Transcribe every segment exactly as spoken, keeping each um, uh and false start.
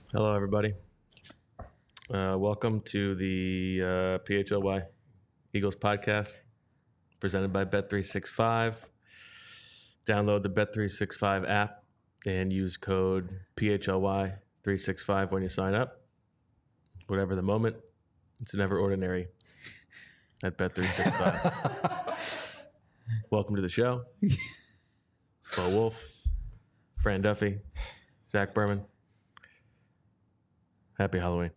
Hello, everybody. Uh, welcome to the uh, P H L Y Eagles podcast presented by Bet three sixty-five. Download the Bet three sixty-five app and use code P H L Y three sixty-five when you sign up. Whatever the moment, it's never ordinary at Bet three sixty-five. Welcome to the show. Bo Wolf, Fran Duffy, Zach Berman. Happy Halloween.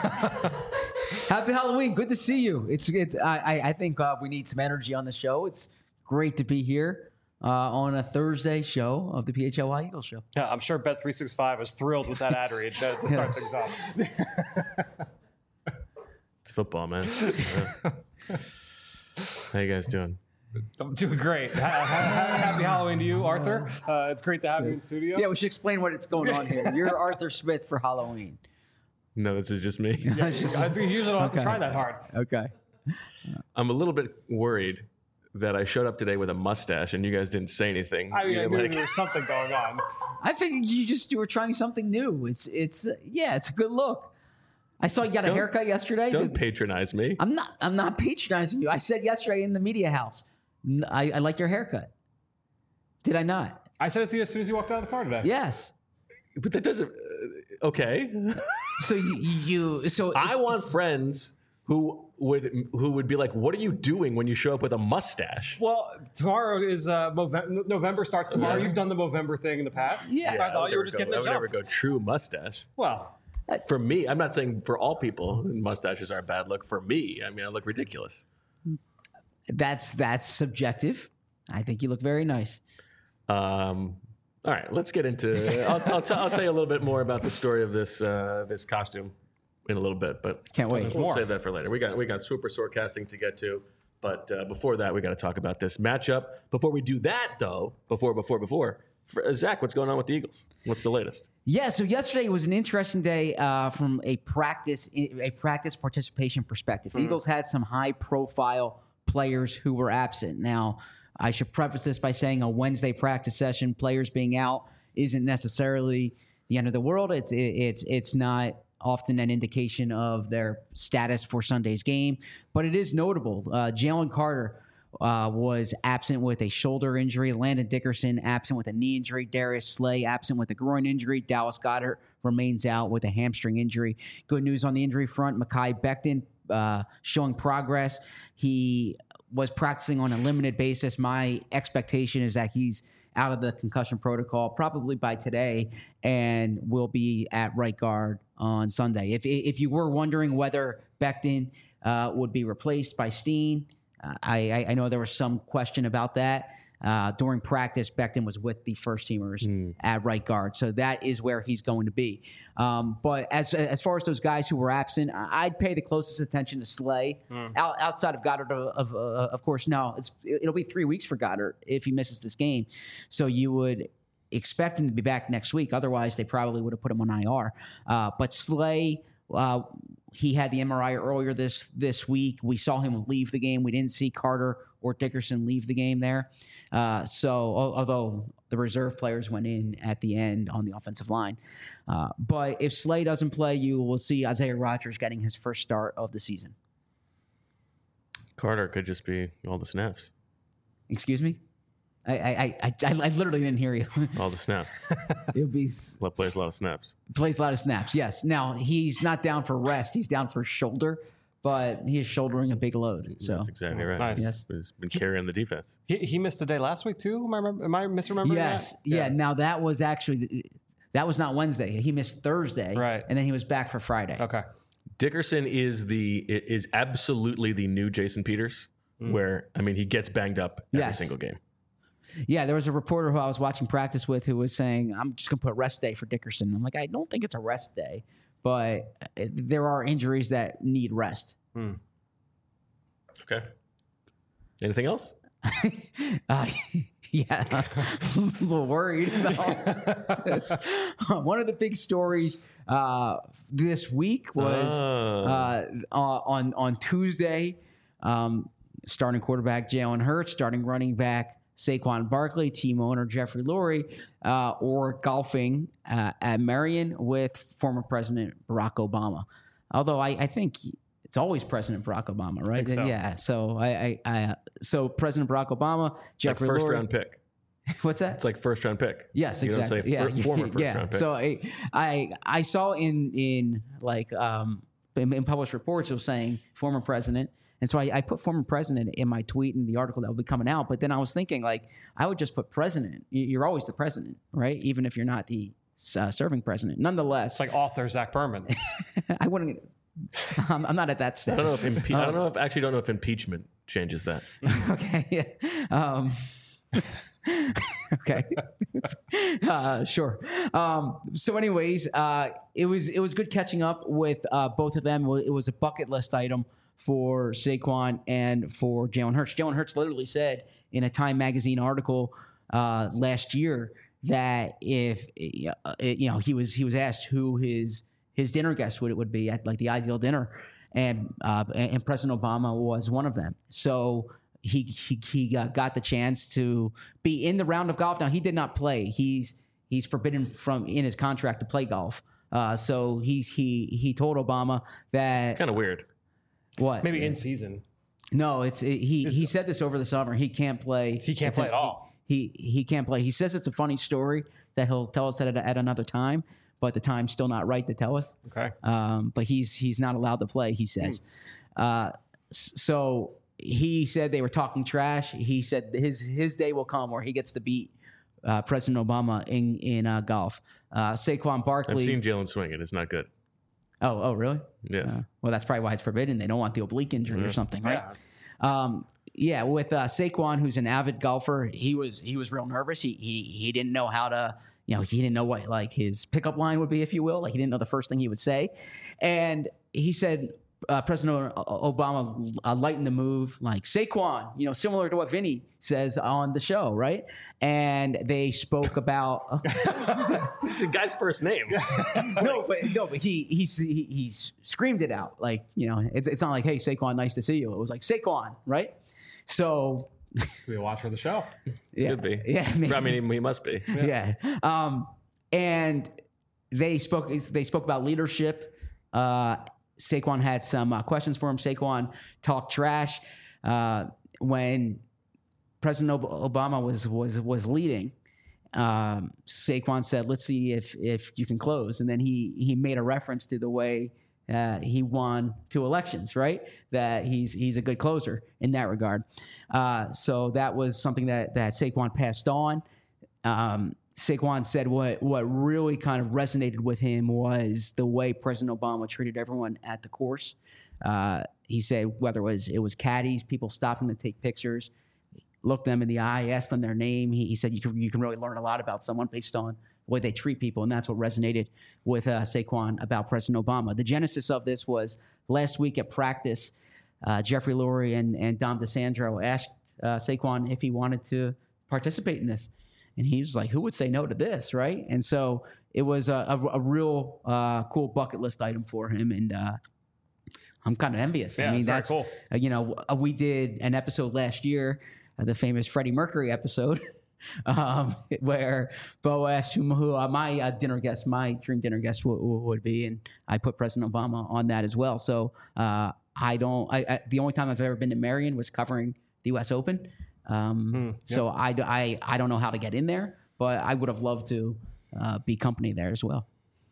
Happy Halloween. Good to see you. It's it's. I I think uh, we need some energy on the show. It's great to be here uh, on a Thursday show of the P H L Y Eagles show. Yeah, I'm sure Bet three sixty-five is thrilled with that ad read to, to start Yes. things off. It's football, man. Yeah. How you guys doing? I'm doing great. Ha- ha- Happy Halloween to you, Arthur. Uh, it's great to have you in studio. Yeah, we should explain what's going on here. You're Arthur Smith for Halloween. No, this is just me. Yeah, you, I think you usually don't have to Okay. try that hard. Okay. I'm a little bit worried that I showed up today with a mustache and you guys didn't say anything. I mean, I You're knew like- there was something going on. I figured you just you were trying something new. It's it's uh, yeah, it's a good look. I saw you got a Don't- haircut yesterday. Don't The- patronize me. I'm not I'm not patronizing you. I said yesterday in the media house. n- I, I like your haircut. Did I not? I said it to you as soon as you walked out of the car today. Yes. But that doesn't. Uh, okay. So you, you so I want friends who would who would be like, "What are you doing when you show up with a mustache?" Well, tomorrow is uh, Move- November starts tomorrow. Yes. You've done the Movember thing in the past. Yeah. So I I thought would you were never just go- getting I a would jump. never go true mustache. Well, For me, I'm not saying for all people mustaches are a bad look. For me, I mean, I look ridiculous. That's that's subjective. I think you look very nice. Um, all right, let's get into. I'll, I'll, t- I'll tell you a little bit more about the story of this uh, this costume in a little bit, but Can't wait. we'll more. save that for later. We got we got super forecasting to get to, but uh, before that, we got to talk about this matchup. Before we do that, though, before before before, for, uh, Zach, what's going on with the Eagles? What's the latest? Yeah, so yesterday was an interesting day uh, from a practice a practice participation perspective. The Eagles had some high profile players who were absent. Now, I should preface this by saying a Wednesday practice session, players being out isn't necessarily the end of the world. It's it, it's it's not often an indication of their status for Sunday's game, but it is notable. Uh, Jalen Carter uh, was absent with a shoulder injury. Landon Dickerson absent with a knee injury. Darius Slay absent with a groin injury. Dallas Goedert remains out with a hamstring injury. Good news on the injury front. Mekhi Becton uh, showing progress. He was practicing on a limited basis. My expectation is that he's out of the concussion protocol probably by today and will be at right guard on Sunday. If if you were wondering whether Becton uh, would be replaced by Steen, uh, I, I know there was some question about that. Uh, during practice, Becton was with the first teamers at right guard, so that is where he's going to be. Um, but as as far as those guys who were absent, I- I'd pay the closest attention to Slay. Out, outside of Goddard, of of, uh, of course, no, it's it'll be three weeks for Goddard if he misses this game. So you would expect him to be back next week. Otherwise, they probably would have put him on I R. Uh, but Slay. Uh, he had the M R I earlier this this week. We saw him leave the game. We didn't see Carter or Dickerson leave the game there. Uh, so, al- although the reserve players went in at the end on the offensive line. Uh, but if Slay doesn't play, you will see Isaiah Rodgers getting his first start of the season. Carter could just be all the snaps. Excuse me? I I I, I, I literally didn't hear you. All the snaps. It'll be s- Love plays a lot of snaps. plays a lot of snaps. Yes. Now he's not down for rest. He's down for shoulder, but he is shouldering a big load. So That's exactly right. Nice. Yes. He's been carrying the defense. he, he missed a day last week too. Am I, remember, am I misremembering yes, that? yeah. Now that was actually that was not Wednesday. He missed Thursday, Right. and then he was back for Friday. Okay. Dickerson is the is absolutely the new Jason Peters, where I mean he gets banged up every Yes. single game. Yeah, there was a reporter who I was watching practice with who was saying, "I'm just going to put rest day for Dickerson." I'm like, I don't think it's a rest day, but uh, there are injuries that need rest. Okay. Anything else? uh, yeah, I'm a little worried about this. One of the big stories uh, this week was Oh. uh, uh, on on Tuesday. Um, starting quarterback Jalen Hurts, starting running back Saquon Barkley, team owner Jeffrey Lurie, uh, or golfing uh, at Marion with former President Barack Obama. Although I, I think it's always President Barack Obama, right? so. Yeah. So I, I, I, so President Barack Obama, Jeffrey like first Lurie. round pick. What's that? It's like first round pick. Yes, You exactly. don't say yeah, fir- former first yeah. round pick. So I, I, I saw in in like um in, in published reports it was saying former president, and so I, I put former president in my tweet in the article that will be coming out. But then I was thinking like I would just put president. You- You're always the president, right? Even if you're not the uh, serving president. Nonetheless, It's like author Zach Berman. I wouldn't. I'm, I'm not at that stage. I don't know if impe- I don't know if actually don't know if impeachment changes that. Okay. Yeah. Um, okay. uh, sure. Um, so, anyways, uh, it was it was good catching up with uh, both of them. It was a bucket list item for Saquon and for Jalen Hurts. Jalen Hurts literally said in a Time Magazine article uh, last year that if uh, you know he was he was asked who his his dinner guest would it would be at like the ideal dinner, and uh, and President Obama was one of them. So he he he uh, got the chance to be in the round of golf. Now he did not play. He's he's forbidden from in his contract to play golf. Uh, so he he he told Obama that Kind of weird. what Maybe in season. no, it's it, he he said this over the summer. He can't play. He can't It's play a- at all. He he can't play. He says it's a funny story that he'll tell us at at another time, but the time's still not right to tell us. Okay. Um, but he's he's not allowed to play. He says. Uh, s- so he said they were talking trash. He said his his day will come where he gets to beat uh, President Obama in in uh, golf. Uh, Saquon I've Barkley. seen Jalen swing it. It's not good. oh oh really? Yes. Uh, well, that's probably why it's forbidden. They don't want the oblique injury or something, right? Yeah. Um, yeah, with uh, Saquon, who's an avid golfer, he was he was real nervous. He he he didn't know how to, you know, he didn't know what like his pickup line would be, if you will. Like he didn't know the first thing he would say, and he said uh, President O- Obama uh, lightened the move, like Saquon, you know, similar to what Vinny says on the show, right? And they spoke about. It's a guy's first name. no, but no, but he he he he screamed it out, like, you know, it's it's not like, hey Saquon, nice to see you. It was like Saquon, right? So Be a watcher of the show. yeah, Could be. yeah, maybe. I mean, he must be. yeah. Um, and they spoke they spoke about leadership. Uh, Saquon had some uh, questions for him. Saquon talked trash uh, when President Ob- Obama was was was leading. Um, Saquon said, "Let's see if if you can close," and then he he made a reference to the way uh, he won two elections, right? That he's he's a good closer in that regard. Uh, so that was something that that Saquon passed on. Um, Saquon said what what really kind of resonated with him was the way President Obama treated everyone at the course. Uh, he said whether it was it was caddies, people stopping to take pictures, looked them in the eye, asked them their name. He, he said you can you can really learn a lot about someone based on the way they treat people, and that's what resonated with uh, Saquon about President Obama. The genesis of this was last week at practice. Uh, Jeffrey Lurie and, and Dom DeSandro asked uh, Saquon if he wanted to participate in this. And he was like, who would say no to this, right? And so it was a, a, a real uh, cool bucket list item for him. And uh, I'm kind of envious. Yeah, I mean, it's very that's, cool. uh, you know, uh, we did an episode last year, uh, the famous Freddie Mercury episode, um, where Bo asked who, who uh, my uh, dinner guest, my dream dinner guest w- w- would be. And I put President Obama on that as well. So uh, I don't, I, I, the only time I've ever been to Marion was covering the U S Open. Um, Hmm, yep. So I, I, I don't know how to get in there, but I would have loved to uh, be company there as well.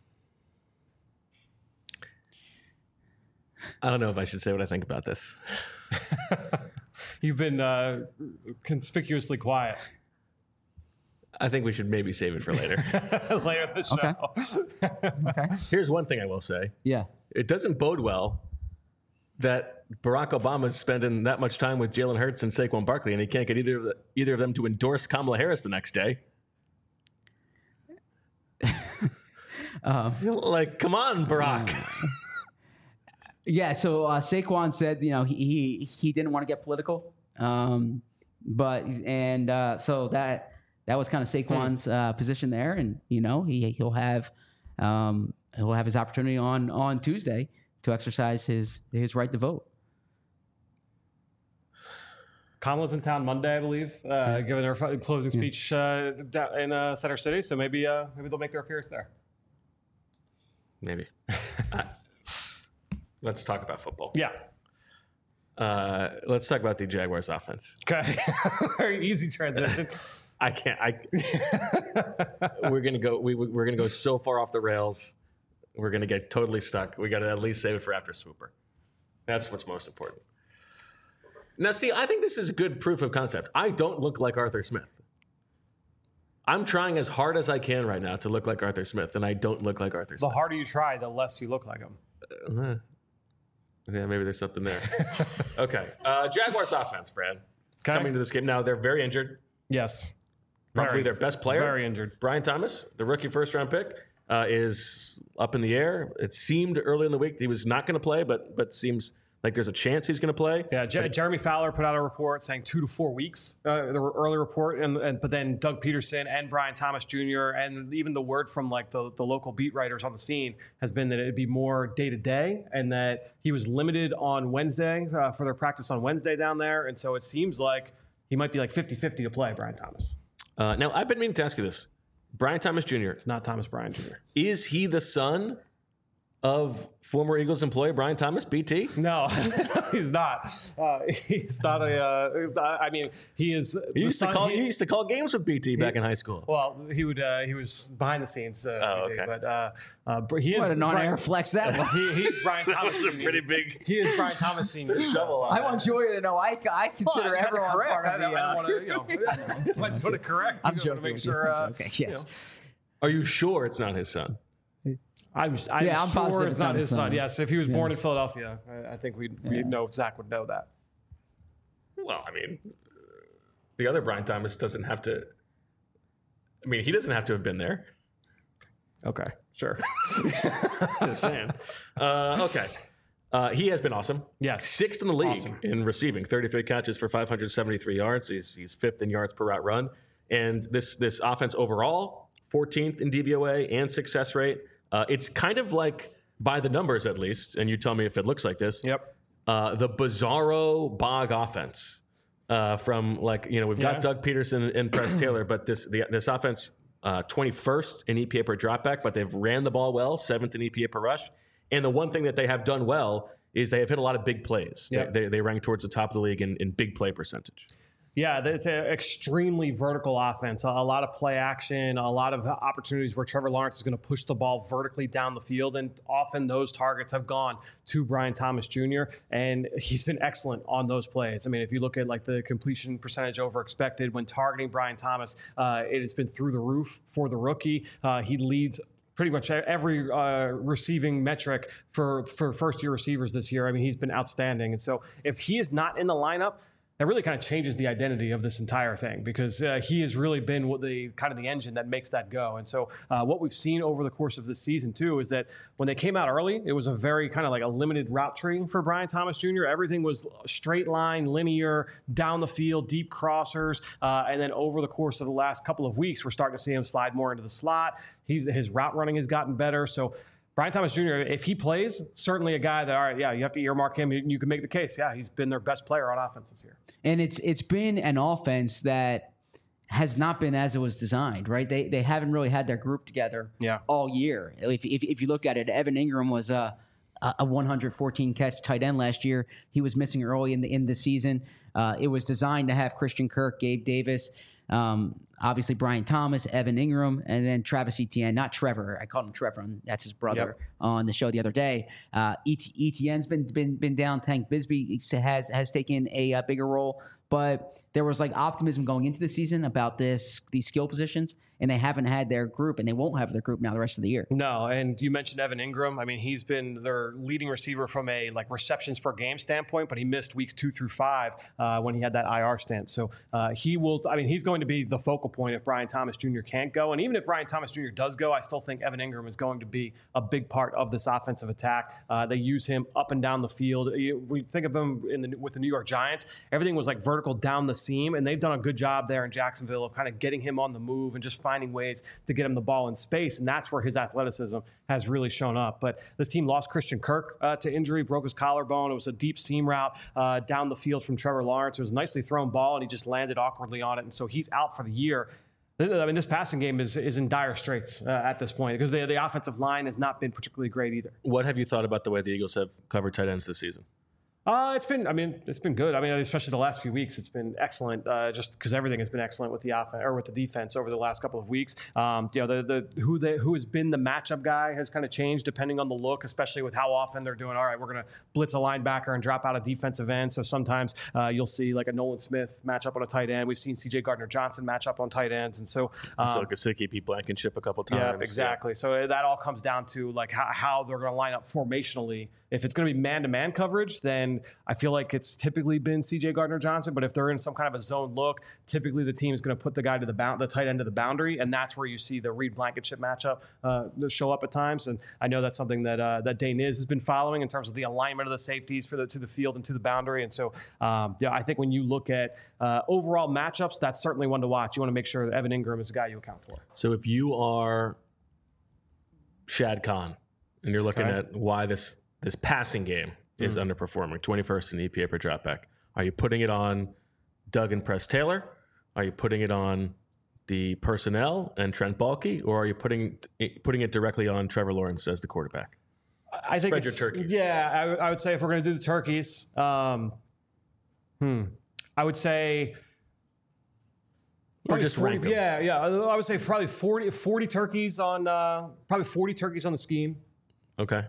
I don't know if I should say what I think about this. You've been uh, conspicuously quiet. I think we should maybe save it for later. Later in the show. Okay. Okay. Here's one thing I will say. Yeah. It doesn't bode well that Barack Obama's spending that much time with Jalen Hurts and Saquon Barkley, and he can't get either of, the, either of them to endorse Kamala Harris the next day. Um, Like, come on, Barack. Yeah, so uh, Saquon said, you know, he he, he didn't want to get political, um, but and uh, so that that was kind of Saquon's uh, position there, and you know he he'll have um, he'll have his opportunity on on Tuesday to exercise his his right to vote. Kamala's in town Monday, I believe, uh, giving her closing speech uh, in uh, Center City. So maybe uh, maybe they'll make their appearance there. Maybe. uh, let's talk about football. Yeah. Uh, let's talk about the Jaguars offense. Okay. Very easy transition. I can't. I. we're gonna go. We we're gonna go so far off the rails. We're gonna get totally stuck. We got to at least save it for after Swooper. That's what's most important. Now, see, I think this is good proof of concept. I don't look like Arthur Smith. I'm trying as hard as I can right now to look like Arthur Smith, and I don't look like Arthur The Smith. harder you try, the less you look like him. Uh, yeah, maybe there's something there. Okay. Uh, Jaguars offense, Fran. Okay. Coming to this game. Now, they're very injured. Yes. Probably Very. their best player. Very injured. Brian Thomas, the rookie first-round pick, uh, is up in the air. It seemed early in the week he was not going to play, but but seems like there's a chance he's going to play. Yeah, J- Jeremy Fowler put out a report saying two to four weeks. Uh, the early report, and, and but then Doug Peterson and Brian Thomas Junior and even the word from like the, the local beat writers on the scene has been that it'd be more day to day, and that he was limited on Wednesday uh, for their practice on Wednesday down there, and so it seems like he might be like fifty-fifty to play. Brian Thomas. Uh, now, I've been meaning to ask you this. Brian Thomas Junior, It's not Thomas Bryan Junior is he the son of former Eagles employee Brian Thomas, B T? No, he's not. Uh, he's not a. Uh, I mean, he is. He used, to call, he, he used to call games with B T back in high school. Well, he would. Uh, he was behind the scenes. Uh, Oh, B J, okay. But uh, uh, Br- he is. What a non-air Brian- flex that was. He, he's Brian That Thomas. was a Senior. pretty big He is Brian Thomas Senior. shovel on I want Joya to know I, I consider Well, I just had to everyone correct. part of I, the. I Uh, don't want to, you know, I just want to correct. I'm you know, joking. to make with you. sure. Uh, Okay, yes. Are you sure it's not his son? I'm, I'm Yeah, I'm sure positive it's it's not not his his son. son. Yes, if he was born in Yes. Philadelphia, I, I think we'd, we'd know Zach would know that. Well, I mean, the other Brian Thomas doesn't have to. I mean, he doesn't have to have been there. Okay, sure. Just saying. Uh, okay. Uh, he has been awesome. Yes. Sixth in the league Awesome. in receiving, thirty-three catches for five hundred seventy-three yards. He's, he's fifth in yards per route run. And this this offense overall, fourteenth in D V O A and success rate. Uh, it's kind of like, by the numbers at least, and you tell me if it looks like this, Yep. uh, the bizarro Bog offense uh, from like, you know, we've got Yeah. Doug Peterson and Press Taylor, but this the, this offense, uh, twenty-first in E P A per dropback, but they've ran the ball well, seventh in E P A per rush. And the one thing that they have done well is they have hit a lot of big plays. Yeah. They, they, they rank towards the top of the league in, in big play percentage. Yeah, it's an extremely vertical offense. A a lot of play action, a lot of opportunities where Trevor Lawrence is going to push the ball vertically down the field. And often those targets have gone to Brian Thomas Junior And he's been excellent on those plays. I mean, if you look at like the completion percentage over expected when targeting Brian Thomas, uh, it has been through the roof for the rookie. Uh, he leads pretty much every uh, receiving metric for, for first-year receivers this year. I mean, he's been outstanding. And so if he is not in the lineup, that really kind of changes the identity of this entire thing, because uh, he has really been what the kind of the engine that makes that go. And so uh, what we've seen over the course of this season too is that when they came out early, it was a very kind of like a limited route tree for Brian Thomas Junior Everything was straight line, linear, down the field, deep crossers. Uh, and then over the course of the last couple of weeks, we're starting to see him slide more into the slot. He's his route running has gotten better. So Brian Thomas Junior, if he plays, certainly a guy that, all right, yeah, you have to earmark him. You can make the case. Yeah, he's been their best player on offense this year. And it's it's been an offense that has not been as it was designed, right? They they haven't really had their group together Yeah. all year. If, if if you look at it, Evan Ingram was a a one hundred fourteen catch tight end last year. He was missing early in the in the season. Uh, it was designed to have Christian Kirk, Gabe Davis, um, obviously Brian Thomas, Evan Ingram, and then Travis Etienne. Not Trevor. I called him Trevor. That's his brother. Yep. On the show the other day. Uh, Et- Etienne's been been been down. Tank Bisbee has has taken a, uh bigger role, but there was like optimism going into the season about this these skill positions, and they haven't had their group, and they won't have their group now the rest of the year. No, and you mentioned Evan Ingram. I mean, he's been their leading receiver from a like receptions per game standpoint, but he missed weeks two through five uh, when he had that I R stint. So uh, he will. I mean, he's going to be the focal point if Brian Thomas Junior can't go. And even if Brian Thomas Junior does go, I still think Evan Ingram is going to be a big part of this offensive attack. Uh, they use him up and down the field. You, we think of him in the, with the New York Giants, everything was like vertical down the seam, and they've done a good job there in Jacksonville of kind of getting him on the move and just finding ways to get him the ball in space. And that's where his athleticism has really shown up. But this team lost Christian Kirk uh, to injury, broke his collarbone. It was a deep seam route uh, down the field from Trevor Lawrence. It was a nicely thrown ball, and he just landed awkwardly on it. And so he's out for the year. I mean, this passing game is is in dire straits uh, at this point because the, the offensive line has not been particularly great either. What have you thought about the way the Eagles have covered tight ends this season? Uh, it's been, I mean, it's been good. I mean, especially the last few weeks, it's been excellent. Uh, just because everything has been excellent with the offense or with the defense over the last couple of weeks. Um, you know, the the who they who has been the matchup guy has kind of changed depending on the look, especially with how often they're doing. All right, we're going to blitz a linebacker and drop out a defensive end. So sometimes uh, you'll see like a Nolan Smith match up on a tight end. We've seen C J Gardner Johnson match up on tight ends, and so um, so Gesicki beat Blankenship a couple times. Yeah, exactly. Yeah. So that all comes down to like how, how they're going to line up formationally. If it's going to be man-to-man coverage, then I feel like it's typically been C J Gardner Johnson. But if they're in some kind of a zone look, typically the team is going to put the guy to the bound, the tight end of the boundary, and that's where you see the Reed Blankenship matchup uh, show up at times. And I know that's something that uh, that Dane Niz has been following in terms of the alignment of the safeties for the to the field and to the boundary. And so, um, yeah, I think when you look at uh, overall matchups, that's certainly one to watch. You want to make sure that Evan Ingram is a guy you account for. So if you are Shad Khan and you're looking okay. at why this this passing game is mm. underperforming, twenty-first in E P A per dropback. Are you putting it on Doug and Press Taylor? Are you putting it on the personnel and Trent Baalke? Or are you putting putting it directly on Trevor Lawrence as the quarterback? I think Spread your turkeys. Yeah, I, w- I would say if we're going to do the turkeys, um, hmm, I would say... Or just forty, rank them. Yeah, yeah. I would say probably forty, forty turkeys on... Uh, probably forty turkeys on the scheme. Okay.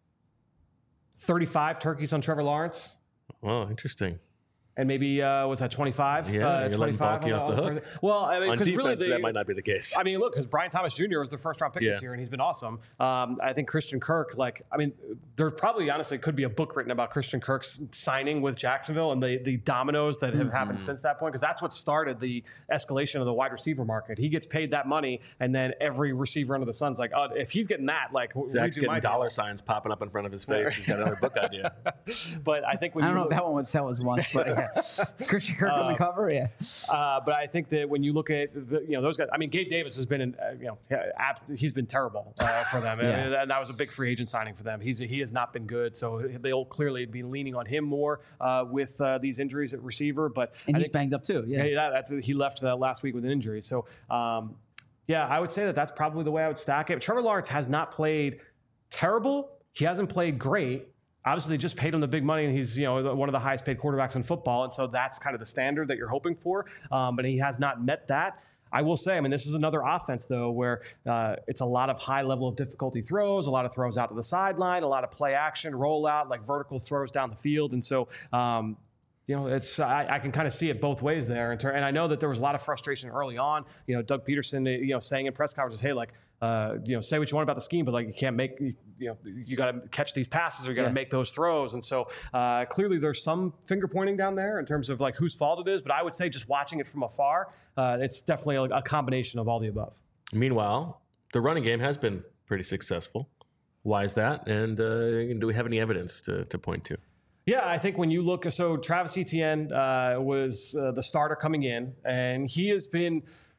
thirty-five turkeys on Trevor Lawrence. Oh, interesting. And maybe, uh, was that twenty-five? Yeah, uh, you're letting Baalke off the hook. Well, I mean, on defense, really they, that might not be the case. I mean, look, because Brian Thomas Junior was their first round pick yeah. this year, and he's been awesome. Um, I think Christian Kirk, like, I mean, there probably honestly could be a book written about Christian Kirk's signing with Jacksonville and the the dominoes that have mm-hmm. happened since that point, because that's what started the escalation of the wide receiver market. He gets paid that money, and then every receiver under the sun's like, oh, if he's getting that, like, Zach's getting dollar signs popping up in front of his face. He's got another book idea. But I think when I don't you know look, if that one would sell as much, but yeah. Christian Kirk uh, on the cover, yeah. Uh, but I think that when you look at the, you know those guys, I mean, Gabe Davis has been, in, uh, you know, he's been terrible uh, for them, yeah. and, and that was a big free agent signing for them. He's he has not been good, so they'll clearly be leaning on him more uh, with uh, these injuries at receiver. But and I he's think, banged up too. Yeah, yeah that's he left uh, last week with an injury. So um, yeah, I would say that that's probably the way I would stack it. Trevor Lawrence has not played terrible. He hasn't played great. Obviously, they just paid him the big money, and he's, you know, one of the highest paid quarterbacks in football, and so that's kind of the standard that you're hoping for. Um, but he has not met that. I will say, I mean, this is another offense, though, where uh, it's a lot of high level of difficulty throws, a lot of throws out to the sideline, a lot of play action, rollout, like vertical throws down the field. And so, um, you know, it's I, I can kind of see it both ways there. And, ter- and I know that there was a lot of frustration early on. You know, Doug Peterson, you know, saying in press conferences, hey, like, Uh, you know, say what you want about the scheme, but like you can't make, you, you know, you got to catch these passes or you got to yeah. make those throws. And so uh, clearly there's some finger pointing down there in terms of like whose fault it is. But I would say just watching it from afar, uh, it's definitely a, a combination of all the above. Meanwhile, the running game has been pretty successful. Why is that? And uh, do we have any evidence to, to point to? Yeah, I think when you look, so Travis Etienne uh, was uh, the starter coming in, and he has been,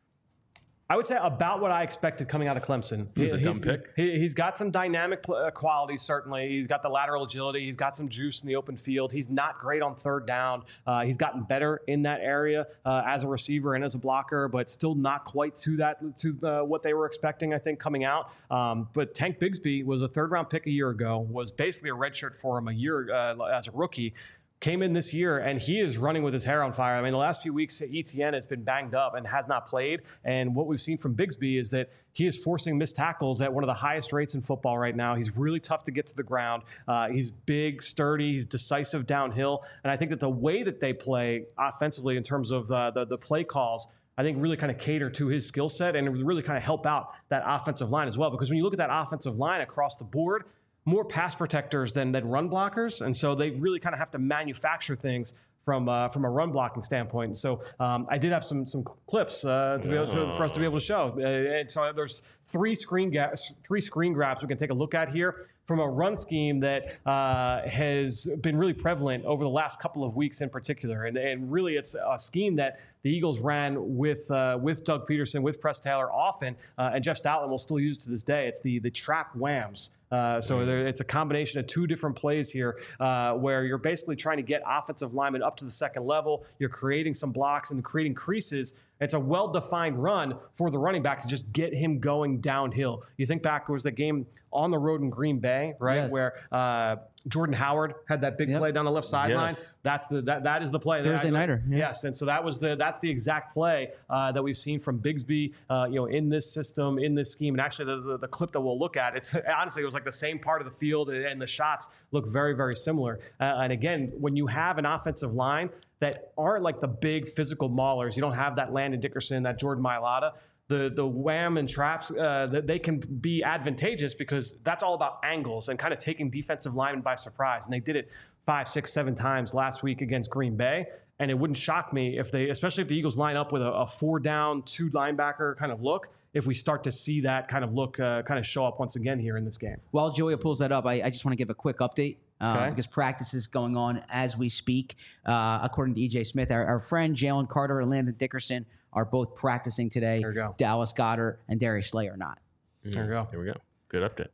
I would say, about what I expected coming out of Clemson. He was a he's, dumb pick. He, he's got some dynamic pl- qualities, certainly. He's got the lateral agility. He's got some juice in the open field. He's not great on third down. Uh, he's gotten better in that area uh, as a receiver and as a blocker, but still not quite to that to uh, what they were expecting, I think, coming out. Um, but Tank Bigsby was a third-round pick a year ago, was basically a redshirt for him a year uh, as a rookie. Came in this year, and he is running with his hair on fire. I mean, the last few weeks, Etienne has been banged up and has not played. And what we've seen from Bigsby is that he is forcing missed tackles at one of the highest rates in football right now. He's really tough to get to the ground. Uh, he's big, sturdy. He's decisive downhill. And I think that the way that they play offensively in terms of uh, the, the play calls, I think really kind of cater to his skill set and really kind of help out that offensive line as well. Because when you look at that offensive line across the board, more pass protectors than, than run blockers. And so they really kind of have to manufacture things from uh, from a run blocking standpoint. And so um, I did have some some clips uh, to be able to, for us to be able to show. Uh, and so there's three screen ga- three screen grabs we can take a look at here from a run scheme that uh, has been really prevalent over the last couple of weeks in particular. And, and really, it's a scheme that the Eagles ran with uh, with Doug Peterson, with Press Taylor often, uh, and Jeff Stoutland will still use to this day. It's the the trap whams. Uh, so there, it's a combination of two different plays here uh, where you're basically trying to get offensive linemen up to the second level. You're creating some blocks and creating creases. It's a well-defined run for the running back to just get him going downhill. You think back, it was the game on the road in Green Bay, right, yes. where uh, Jordan Howard had that big yep. play down the left sideline. Yes. That's the that that is the play. Thursday nighter. Yeah. Yes, and so that was the that's the exact play uh, that we've seen from Bigsby, uh, you know, in this system, in this scheme, and actually the, the the clip that we'll look at, it's honestly it was like the same part of the field, and, and the shots look very very similar. Uh, and again, when you have an offensive line that aren't like the big physical maulers, you don't have that Landon Dickerson, that Jordan Mailata. The the wham and traps, uh, that they can be advantageous because that's all about angles and kind of taking defensive linemen by surprise. And they did it five, six, seven times last week against Green Bay. And it wouldn't shock me if they, especially if the Eagles line up with a, a four down, two linebacker kind of look, if we start to see that kind of look uh, kind of show up once again here in this game. While Julia pulls that up, I, I just want to give a quick update. Uh, Okay. Because practice is going on as we speak. Uh, according to E J Smith, our, our friend Jalen Carter and Landon Dickerson are both practicing today. There we go. Dallas Goedert and Darius Slay are not. There we go. Here we go. Good update.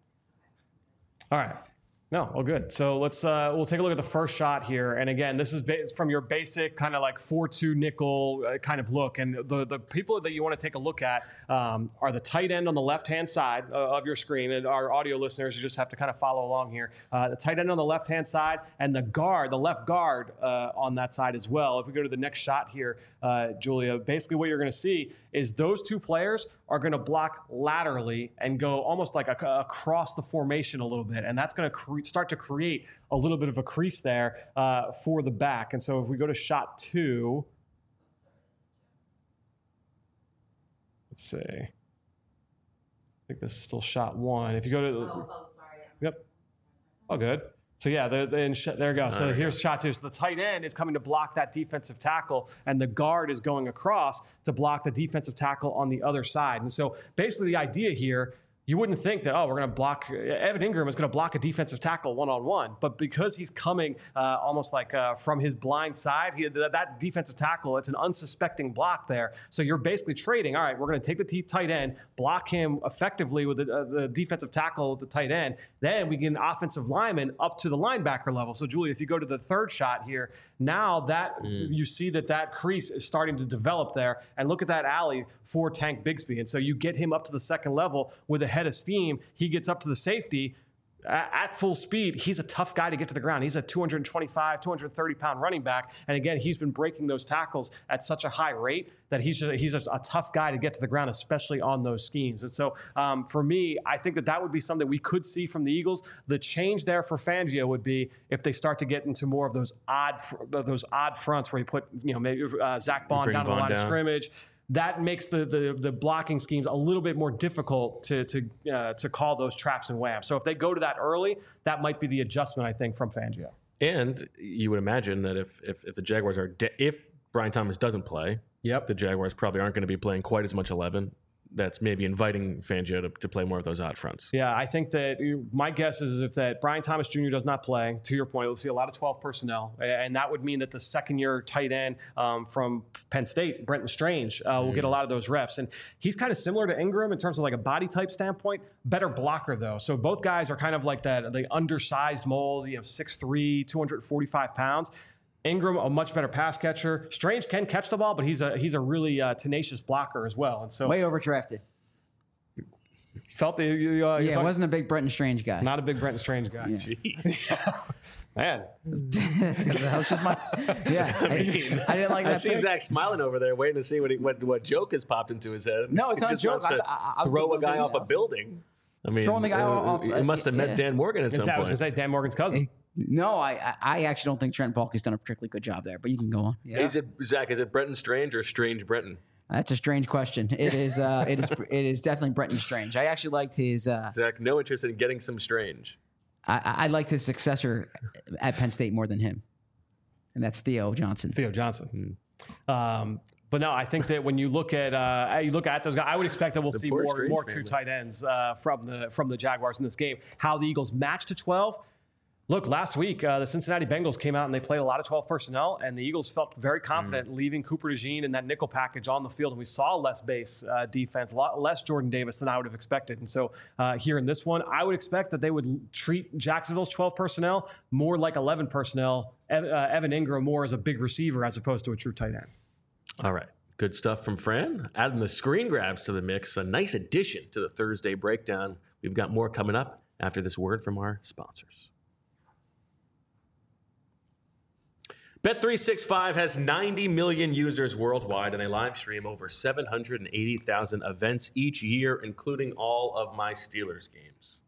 All right. No, well, good. So let's uh, we'll take a look at the first shot here. And again, this is ba- from your basic kind of like four two nickel uh, kind of look. And the the people that you want to take a look at um, are the tight end on the left hand side uh, of your screen. And our audio listeners, you just have to kind of follow along here. Uh, the tight end on the left hand side and the guard, the left guard uh, on that side as well. If we go to the next shot here, uh, Julia, basically what you're going to see is those two players are going to block laterally and go almost like a, across the formation a little bit. And that's going to cre- start to create a little bit of a crease there uh, for the back. And so if we go to shot two, let's see. I think this is still shot one. If you go to, Oh, oh, sorry. yep, all good. So yeah, the, the, and sh- there we go. So There we here's go. shot two. So the tight end is coming to block that defensive tackle, and the guard is going across to block the defensive tackle on the other side. And so basically the idea here, you wouldn't think that, oh, we're going to block, Evan Ingram is going to block a defensive tackle one-on-one. But because he's coming uh, almost like uh, from his blind side, he, that, that defensive tackle, it's an unsuspecting block there. So you're basically trading, all right, we're going to take the t- tight end, block him effectively with the, uh, the defensive tackle with the tight end. Then we get an offensive lineman up to the linebacker level. So, Julie, if you go to the third shot here, now that Mm. you see that that crease is starting to develop there. And look at that alley for Tank Bigsby. And so you get him up to the second level with a head of steam. He gets up to the safety at, at full speed. He's a tough guy to get to the ground. He's a two twenty-five, two thirty pound running back. And again, he's been breaking those tackles at such a high rate that he's just, he's just a tough guy to get to the ground, especially on those schemes. And so um, for me, I think that that would be something we could see from the Eagles. The change there for Fangio would be if they start to get into more of those odd, fr- those odd fronts where you put, you know, maybe uh, Zach Bond Bring down to the Bond line of down. scrimmage. That makes the, the the blocking schemes a little bit more difficult to to uh, to call those traps and whams. So if they go to that early, that might be the adjustment, I think, from Fangio. And you would imagine that if if, if the Jaguars are de- if Brian Thomas doesn't play, Yep. the Jaguars probably aren't going to be playing quite as much eleven. That's maybe inviting Fangio to, to play more of those odd fronts. Yeah, I think that you- my guess is if that Brian Thomas Junior does not play, to your point, we'll see a lot of twelve personnel. And that would mean that the second year tight end um, from Penn State, Brenton Strange, uh, will get a lot of those reps. And he's kind of similar to Ingram in terms of like a body type standpoint, better blocker though. So both guys are kind of like that, the undersized mold, you know, six three, two forty-five pounds. Ingram, a much better pass catcher. Strange can catch the ball, but he's a he's a really uh, tenacious blocker as well. And so Way overdrafted. felt the you, uh, you Yeah, thought- wasn't a big Brenton Strange guy. not a big Brenton Strange guy. Jeez. Man, that was just my. Yeah, I, I didn't like I that. see pick. Zach smiling over there, waiting to see what he, what what joke has popped into his head. No, it's He not a just joke. wants I- to I- I was throw a thinking guy of off a else. building. I mean, Throwing the guy uh, off- He must have yeah. met Dan Morgan at some I was going point. to say Dan Morgan's cousin. No, I I- I actually don't think Trent Baalke's done a particularly good job there. But you can go on. Yeah. Is it Zach? Is it Brenton Strange or Strange Brenton? That's a strange question. It is. Uh, it is. It is definitely Brenton Strange. I actually liked his. Uh, Zach, no interest in getting some Strange. I, I liked his successor at Penn State more than him. And that's Theo Johnson. Theo Johnson. Mm. Um, but no, I think that when you look at uh, you look at those guys, I would expect that we'll The see poor more Strange more family. two tight ends uh, from the from the Jaguars in this game. How the Eagles matched to twelve. Look, last week, uh, the Cincinnati Bengals came out and they played a lot of twelve personnel, and the Eagles felt very confident mm. leaving Cooper DeJean and that nickel package on the field. And we saw less base uh, defense, a lot less Jordan Davis than I would have expected. And so uh, here in this one, I would expect that they would treat Jacksonville's twelve personnel more like eleven personnel. Ev- uh, Evan Ingram more as a big receiver as opposed to a true tight end. All right. Good stuff from Fran. Adding the screen grabs to the mix. A nice addition to the Thursday breakdown. We've got more coming up after this word from our sponsors. Bet three sixty-five has ninety million users worldwide, and they live stream over seven hundred eighty thousand events each year, including all of my Steelers games.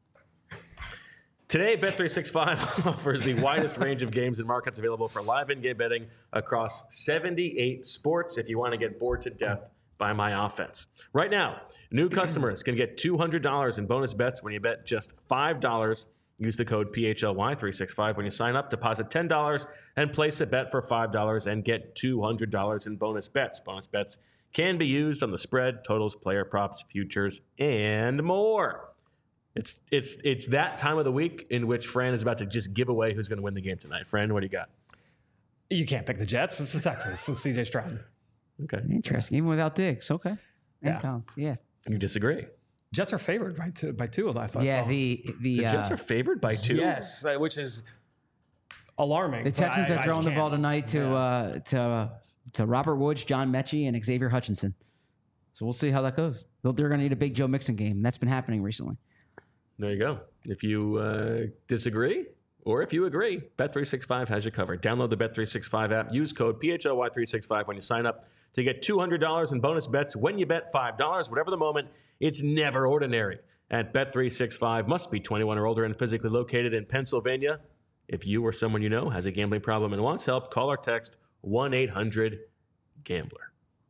Today, Bet three sixty-five offers the widest range of games and markets available for live in-game betting across seventy-eight sports if you want to get bored to death by my offense. Right now, new customers can get two hundred dollars in bonus bets when you bet just five dollars. Use the code P H L Y three sixty-five when you sign up, deposit ten dollars, and place a bet for five dollars and get two hundred dollars in bonus bets. Bonus bets can be used on the spread, totals, player props, futures, and more. It's it's it's that time of the week in which Fran is about to just give away who's going to win the game tonight. Fran, what do you got? You can't pick the Jets. It's the Texans. It's C J Stroud. Okay. Interesting. Even without Diggs. Okay. And Yeah. Collins. Yeah. You disagree? Jets are favored by two. By two, I thought. Yeah. so. The the, The Jets uh, are favored by two? Yes, uh, which is alarming. the but Texans I- are I throwing just the can't. ball tonight to Yeah. uh, to uh, to Robert Woods, John Mechie, and Xavier Hutchinson. So we'll see how that goes. They'll- They're going to need a big Joe Mixon game. That's been happening recently. There you go. If you uh, disagree or if you agree, Bet three sixty-five has you covered. Download the Bet three sixty-five app. Use code P H L Y three sixty-five when you sign up to get two hundred dollars in bonus bets when you bet five dollars. Whatever the moment, it's never ordinary. At Bet three sixty-five, must be twenty-one or older and physically located in Pennsylvania. If you or someone you know has a gambling problem and wants help, call or text one eight hundred gambler.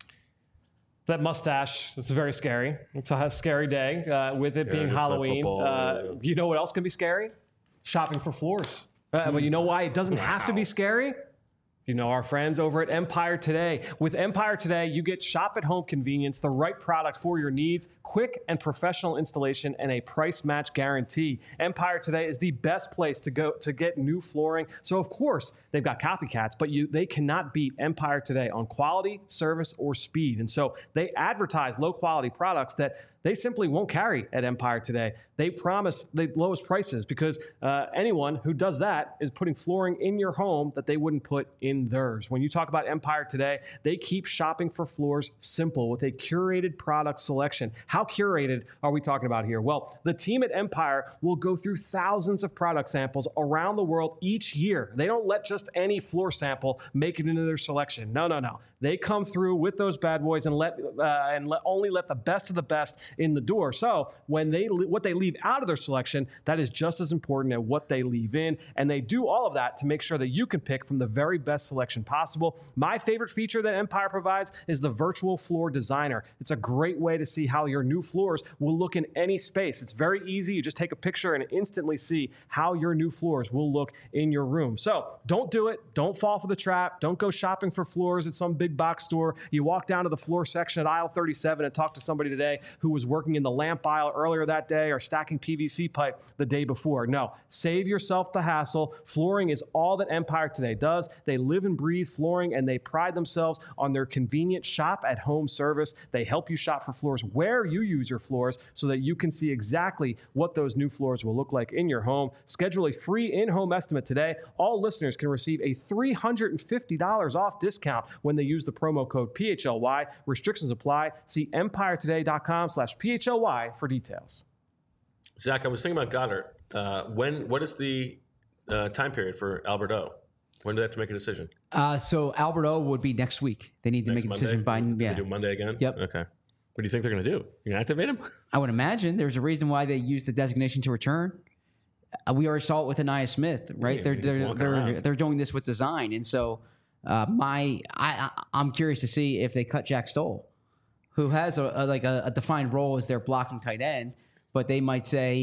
That mustache, it's very scary. It's a scary day uh, with it Yeah, being just play Halloween. football, Uh, yeah. you know what else can be scary? Shopping for floors. Uh, But you know why it doesn't have to be scary? You know our friends over at Empire Today. With Empire Today, you get shop-at-home convenience, the right product for your needs, quick and professional installation, and a price match guarantee. Empire Today is the best place to go to get new flooring. So of course they've got copycats, but you they cannot beat Empire Today on quality, service, or speed. And so they advertise low-quality products that they simply won't carry at Empire Today. They promise the lowest prices because uh, anyone who does that is putting flooring in your home that they wouldn't put in theirs. When you talk about Empire Today, they keep shopping for floors simple with a curated product selection. How curated are we talking about here? Well, the team at Empire will go through thousands of product samples around the world each year. They don't let just any floor sample make it into their selection. No, no, no. They come through with those bad boys and let uh, and let, only let the best of the best in the door. So when they what they leave out of their selection, that is just as important as what they leave in. And they do all of that to make sure that you can pick from the very best selection possible. My favorite feature that Empire provides is the virtual floor designer. It's a great way to see how your new floors will look in any space. It's very easy. You just take a picture and instantly see how your new floors will look in your room. So don't do it. Don't fall for the trap. Don't go shopping for floors at some big box store. You walk down to the floor section at aisle thirty-seven and talk to somebody today who was working in the lamp aisle earlier that day or stacking P V C pipe the day before. No, save yourself the hassle. Flooring is all that Empire Today does. They live and breathe flooring, and they pride themselves on their convenient shop at home service. They help you shop for floors where you use your floors so that you can see exactly what those new floors will look like in your home. Schedule a free in-home estimate today. All listeners can receive a three hundred fifty dollars off discount when they use the promo code P H L Y. Restrictions apply. See empire today dot com slash P H L Y for details. Zach, I was thinking about Goddard. Uh, when what is the uh, time period for Albert O? When do they have to make a decision? Uh, so Albert O would be next week. They need to Next make a decision Monday? by Do yeah. they do Monday again? Yep. Okay. What do you think they're going to do? You going to activate him? I would imagine there's a reason why they use the designation to return. Uh, we already saw it with Anaya Smith, right? Yeah, they're he's they're walking they're, around. they're doing this with design, and so uh, my I, I I'm curious to see if they cut Jack Stoll, who has a, a like a, a defined role as their blocking tight end, but they might say,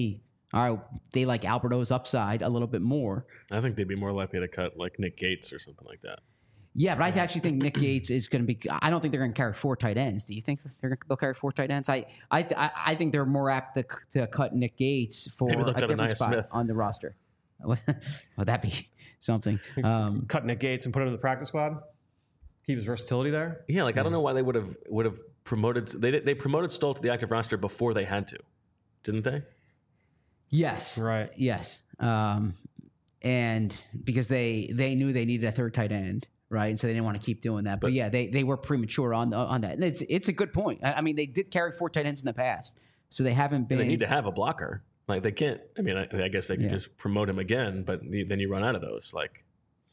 All right, they like Alberto's upside a little bit more. I think they'd be more likely to cut like Nick Gates or something like that. Yeah, but I actually think Nick Gates is going to be. I don't think they're going to carry four tight ends. Do you think they're they'll carry four tight ends? I I I think they're more apt to, to cut Nick Gates for a different spot Smith. on the roster. Well, that'd be something. Um, cut Nick Gates and put him in the practice squad. Keep his versatility there. Yeah, like I don't know why they would have would have promoted. They they promoted Stoll to the active roster before they had to, didn't they? Yes. Right. Yes. Um, and because they they knew they needed a third tight end. Right, and so they didn't want to keep doing that, but, but yeah, they, they were premature on on that. And it's it's a good point. I, I mean, they did carry four tight ends in the past, so they haven't been. They need to have a blocker. Like they can't. I mean, I, I guess they could yeah. just promote him again, but then you run out of those. Like,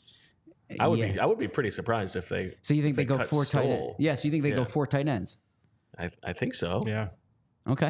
I would yeah. be I would be pretty surprised if they. So you think they, they go four tight ends? Yes, yeah, so you think they yeah. go four tight ends? I I think so. Yeah. Okay.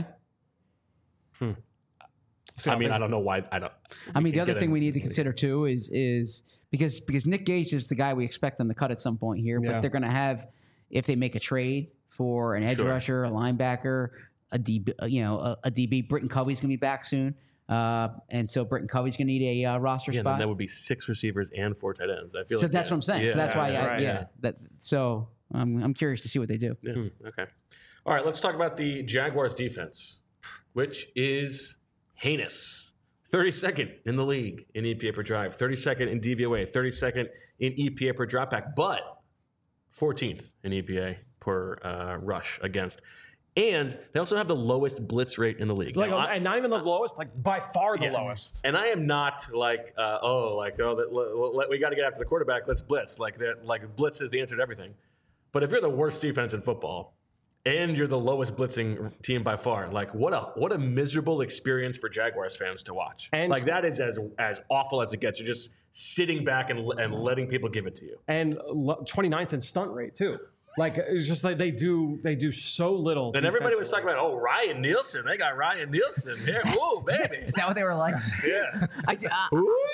Hmm. So I mean, I don't know why. I don't. I mean, the other thing we need to consider too is is because because Nick Gage is the guy we expect them to cut at some point here, yeah. but they're going to have if they make a trade for an edge sure. rusher, a linebacker, a D B, you know, a, a D B. Britton Covey's going to be back soon, uh, and so Britton Covey's going to need a uh, roster yeah, spot. And that would be six receivers and four tight ends. I feel so like that's yeah. what I'm saying. Yeah, so that's why, yeah, I, right, yeah, yeah. That so um, I'm curious to see what they do. Yeah. Hmm. Okay. All right. Let's talk about the Jaguars defense, which is heinous. thirty-second in the league in E P A per drive, thirty-second in D V O A, thirty-second in E P A per dropback, but fourteenth in E P A per uh, rush against. And they also have the lowest blitz rate in the league. Like, now, and not even the lowest, like by far the yeah. lowest. And I am not like, uh, oh, like, oh, that, l- l- we got to get after the quarterback. Let's blitz. Like that, like blitz is the answer to everything. But if you're the worst defense in football, and you're the lowest blitzing team by far. Like what a what a miserable experience for Jaguars fans to watch. And like that is as as awful as it gets. You're just sitting back and and letting people give it to you. And twenty-ninth in stunt rate too. Like it's just like they do they do so little. And everybody was talking about, oh, Ryan Nielsen. They got Ryan Nielsen here. Ooh, baby. Is that what they were like? Yeah. I, uh,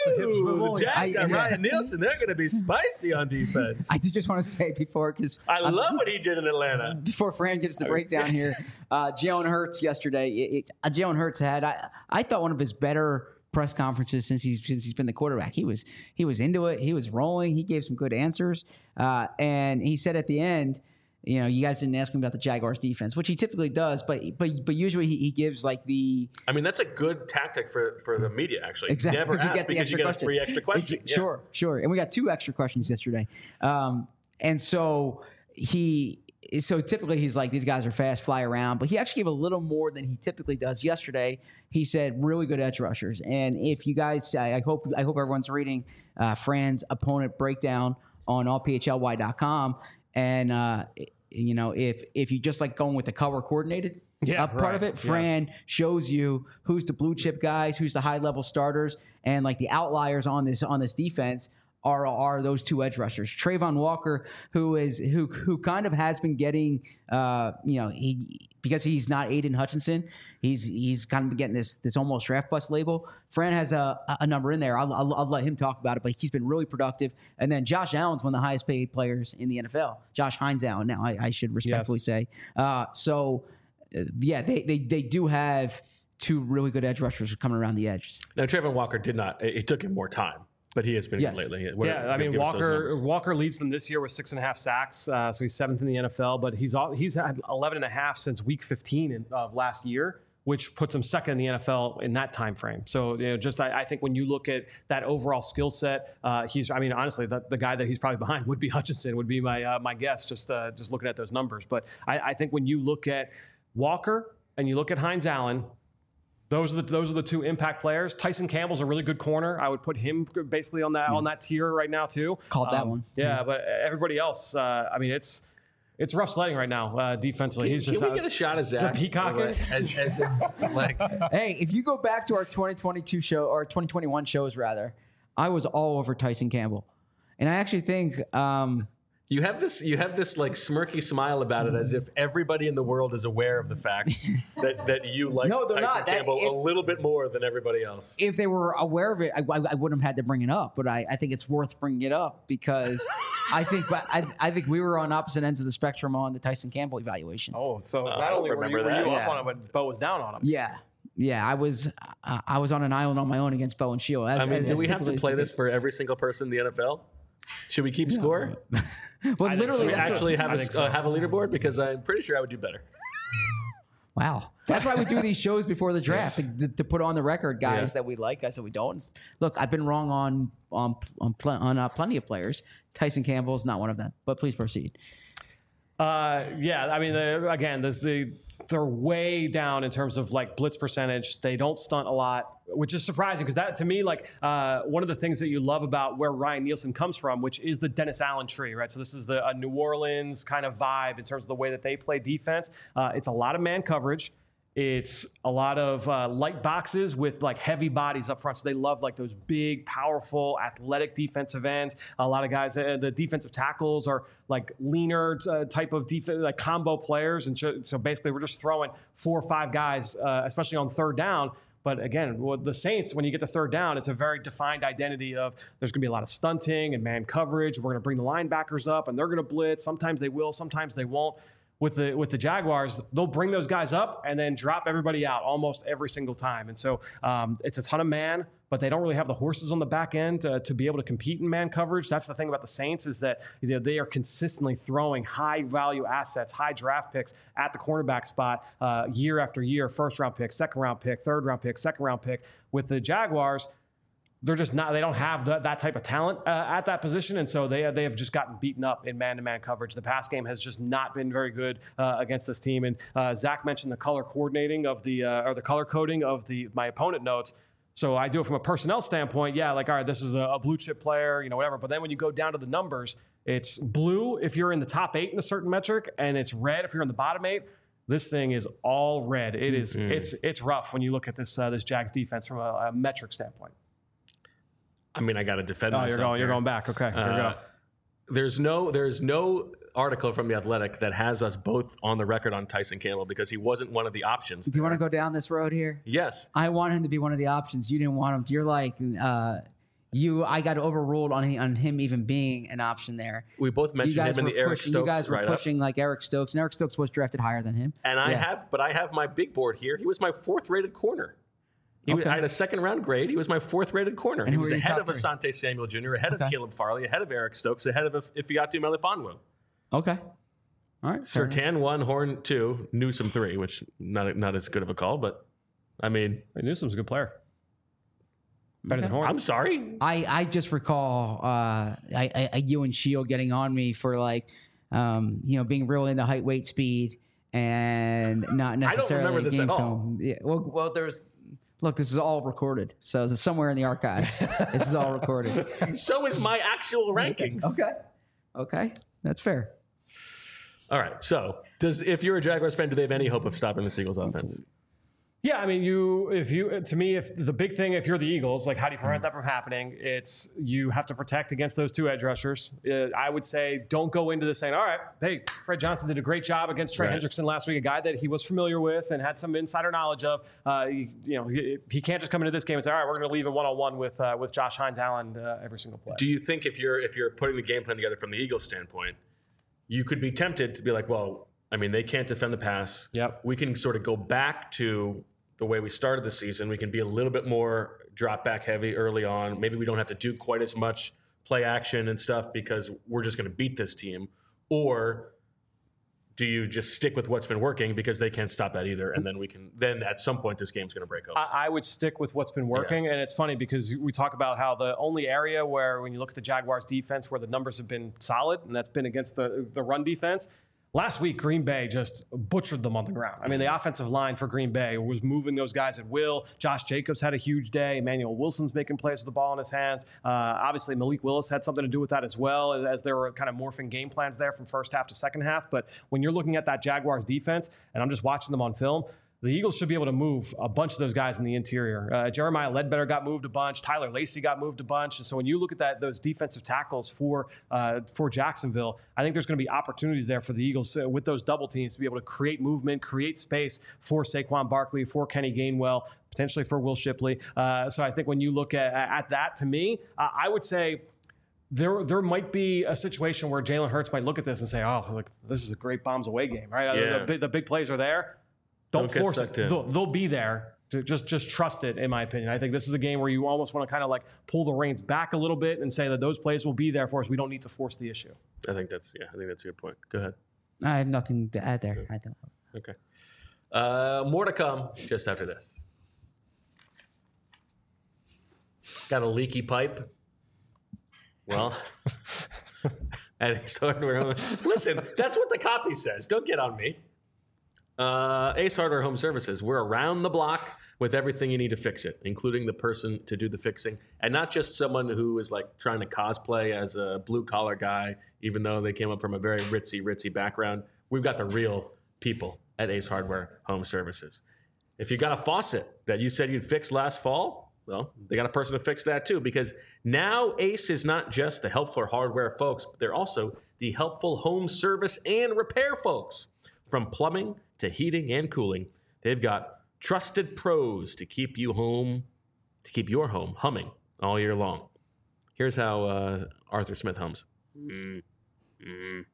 Ooh, the Jags got yeah. Ryan Nielsen. They're going to be spicy on defense. I did just want to say before because I um, love what he did in Atlanta. Before Fran gives the breakdown here, uh, Jalen Hurts yesterday. It, it, uh, Jalen Hurts had I I thought one of his better press conferences since he's since he's been the quarterback. He was he was into it. He was rolling. He gave some good answers, uh, and he said at the end, you know, you guys didn't ask me about the Jaguars defense, which he typically does, but but but usually he, he gives like the. I mean, that's a good tactic for, for the media, actually. Exactly, never ask you get because you get question. a free extra question. Yeah. Sure, sure, and we got two extra questions yesterday, um, and so he. So typically he's like, these guys are fast, fly around, but he actually gave a little more than he typically does. Yesterday, he said really good edge rushers, and if you guys, I, I hope I hope everyone's reading uh, Fran's opponent breakdown on all P H L Y dot com. And, uh, you know, if if you just like going with the color coordinated yeah, uh, part right. of it, Fran yes. shows you who's the blue chip guys, who's the high level starters, and like the outliers on this on this defense are are those two edge rushers. Trayvon Walker, who is who who kind of has been getting, uh, you know, he because he's not Aiden Hutchinson, he's he's kind of getting this this almost draft bust label. Fran has a a number in there. I'll, I'll I'll let him talk about it, but he's been really productive. And then Josh Allen's one of the highest paid players in the N F L. Josh Hines Allen. Now I, I should respectfully yes. say. Uh, so uh, yeah, they they they do have two really good edge rushers coming around the edges. Now Trayvon Walker did not. It took him more time. But he has been yes. good lately. What yeah, I mean Walker. Walker leads them this year with six and a half sacks, uh, so he's seventh in the N F L. But he's all, he's had eleven and a half since week fifteen in, of last year, which puts him second in the N F L in that time frame. So you know, just I, I think when you look at that overall skill set, uh, he's. I mean, honestly, the, the guy that he's probably behind would be Hutchinson. Would be my uh, my guess. Just uh, just looking at those numbers. But I, I think when you look at Walker and you look at Hines Allen. Those are the those are the two impact players. Tyson Campbell's a really good corner. I would put him basically on that yeah. on that tier right now too. Called um, that one. Yeah, yeah, but everybody else, uh, I mean, it's it's rough sledding right now uh, defensively. Can, He's just can we out, get a shot of Zach? Peacocking? As, as if, like, hey, if you go back to our twenty twenty-two show or twenty twenty-one shows rather, I was all over Tyson Campbell, and I actually think. Um, You have this you have this like smirky smile about it as if everybody in the world is aware of the fact that, that you like no, Tyson not. Campbell that, if, a little bit more than everybody else. If they were aware of it, I, I, I wouldn't have had to bring it up, but I, I think it's worth bringing it up because I think but I, I think we were on opposite ends of the spectrum on the Tyson Campbell evaluation. Oh, so uh, not only were you, were you yeah. up on it, but Bo was down on him. Yeah. yeah, I was uh, I was on an island on my own against Bowen Shield. As, I mean, as, do as we have to typically play is the this case. for every single person in the N F L? Should we keep score? Well, I think literally, so. We that's what- actually have I a, think so. uh, have a leaderboard because I'm pretty sure I would do better. wow. That's why we do these shows before the draft to, to, to put on the record guys Yeah. that we like, guys that we don't. Look, I've been wrong on on on, pl- on uh, plenty of players. Tyson Campbell is not one of them. But please proceed. Uh, yeah, I mean, the, again, the, the they're way down in terms of like blitz percentage. They don't stunt a lot, which is surprising because that to me, like uh, one of the things that you love about where Ryan Nielsen comes from, which is the Dennis Allen tree, right? So this is the a New Orleans kind of vibe in terms of the way that they play defense. Uh, it's a lot of man coverage. It's a lot of uh, light boxes with like heavy bodies up front. So they love like those big, powerful, athletic defensive ends. A lot of guys, uh, the defensive tackles are like leaner uh, type of defense, like combo players. And so, so basically, we're just throwing four or five guys, uh, especially on third down. But again, with the Saints, when you get to third down, it's a very defined identity of there's going to be a lot of stunting and man coverage. We're going to bring the linebackers up, and they're going to blitz. Sometimes they will, sometimes they won't. With the with the Jaguars, they'll bring those guys up and then drop everybody out almost every single time. And so um, it's a ton of man, but they don't really have the horses on the back end uh, to be able to compete in man coverage. That's the thing about the Saints is that you know, they are consistently throwing high value assets, high draft picks at the cornerback spot uh, year after year, first round pick, second round pick, third round pick, second round pick. With the Jaguars, they're just not, they don't have the, that type of talent uh, at that position. And so they, they have just gotten beaten up in man-to-man coverage. The pass game has just not been very good uh, against this team. And uh, Zach mentioned the color coordinating of the, uh, or the color coding of the, my opponent notes. So I do it from a personnel standpoint. Yeah, like, all right, this is a, a blue chip player, you know, whatever. But then when you go down to the numbers, it's blue if you're in the top eight in a certain metric, and it's red if you're in the bottom eight. This thing is all red. It is, mm-hmm. it's, it's rough when you look at this, uh, this Jags defense from a, a metric standpoint. I mean, I got to defend oh, myself. You're going, here. you're going back. Okay, here uh, we go. There's no, there's no article from The Athletic that has us both on the record on Tyson Campbell because he wasn't one of the options. Do you want to go down this road here? Yes. I want him to be one of the options. You didn't want him. You're like, uh, you. I got overruled on him, on him even being an option there. We both You mentioned guys him in were the Eric pushing, Stokes You guys were write-up. pushing like Eric Stokes, and Eric Stokes was drafted higher than him. And I Yeah. have, but I have my big board here. He was my fourth rated corner. He Okay. was, I had a second round grade. He was my fourth rated corner. And He who was were your ahead top of three? Asante Samuel Junior, ahead Okay. of Caleb Farley, ahead of Eric Stokes, ahead of Ifeatu Melifonwu. Okay. All right. fair enough. Surtain one, Horn two, Newsome three, which not not as good of a call, but I mean, Hey, Newsome's a good player. Better Okay. than Horn. I'm sorry. I, I just recall uh, I, I, I, you and Shield getting on me for like, um, you know, being real into height, weight, speed, and not necessarily remember this game at all. film. Yeah, well, well, there's look, this is all recorded, so it's somewhere in the archives. This is all recorded. So is my actual rankings. Okay, okay, that's fair. All right. So, does if you're a Jaguars fan, do they have any hope of stopping the Eagles' offense? Yeah, I mean, you if you to me, if the big thing, if you're the Eagles, like how do you prevent that from happening? It's you have to protect against those two edge rushers. Uh, I would say don't go into this saying, all right, hey, Fred Johnson did a great job against Trey Right. Hendrickson last week, a guy that he was familiar with and had some insider knowledge of. Uh, you, you know, he, he can't just come into this game and say, all right, we're going to leave him one on one with uh, with Josh Hines Allen uh, every single play. Do you think if you're if you're putting the game plan together from the Eagles' standpoint, you could be tempted to be like, well, I mean, they can't defend the pass. Yep. We can sort of go back to the way we started the season. We can be a little bit more drop back heavy early on. Maybe we don't have to do quite as much play action and stuff because we're just going to beat this team. Or do you just stick with what's been working because they can't stop that either? And then we can, then at some point this game's going to break open. I, I would stick with what's been working. And it's funny because we talk about how the only area where when you look at the Jaguars defense where the numbers have been solid, and that's been against the, the run defense. Last week, Green Bay just butchered them on the ground. I mean, the offensive line for Green Bay was moving those guys at will. Josh Jacobs had a huge day. Emmanuel Wilson's making plays with the ball in his hands. Uh, obviously, Malik Willis had something to do with that as well, as, as there were kind of morphing game plans there from first half to second half. But when you're looking at that Jaguars defense, and I'm just watching them on film, the Eagles should be able to move a bunch of those guys in the interior. Uh, Jeremiah Ledbetter got moved a bunch. Tyler Lacey got moved a bunch. And so when you look at that, those defensive tackles for uh, for Jacksonville, I think there's going to be opportunities there for the Eagles uh, with those double teams to be able to create movement, create space for Saquon Barkley, for Kenny Gainwell, potentially for Will Shipley. Uh, so I think when you look at, at that, to me, uh, I would say There, there might be a situation where Jalen Hurts might look at this and say, "Oh, look, this is a great bombs away game, right? Yeah. The, the, the big plays are there. Don't, Don't get force sucked it. in. They'll, they'll be there. Just just trust it, in my opinion. I think this is a game where you almost want to kind of like pull the reins back a little bit and say that those plays will be there for us. We don't need to force the issue. I think that's yeah. I think that's a good point. Go ahead. I have nothing to add there. I don't. Okay. Uh, more to come just after this. Got a leaky pipe? Well, at Ace Hardware Home. Listen, that's what the copy says. Don't get on me. Uh, Ace Hardware Home Services. We're around the block with everything you need to fix it, including the person to do the fixing, and not just someone who is like trying to cosplay as a blue collar guy, even though they came up from a very ritzy, ritzy background. We've got the real people at Ace Hardware Home Services. If you got a faucet that you said you'd fix last fall, well, they got a person to fix that too, because now Ace is not just the helpful hardware folks, but they're also the helpful home service and repair folks. From plumbing to heating and cooling, they've got trusted pros to keep you home, to keep your home humming all year long. Here's how uh, Arthur Smith hums. Mm, mm,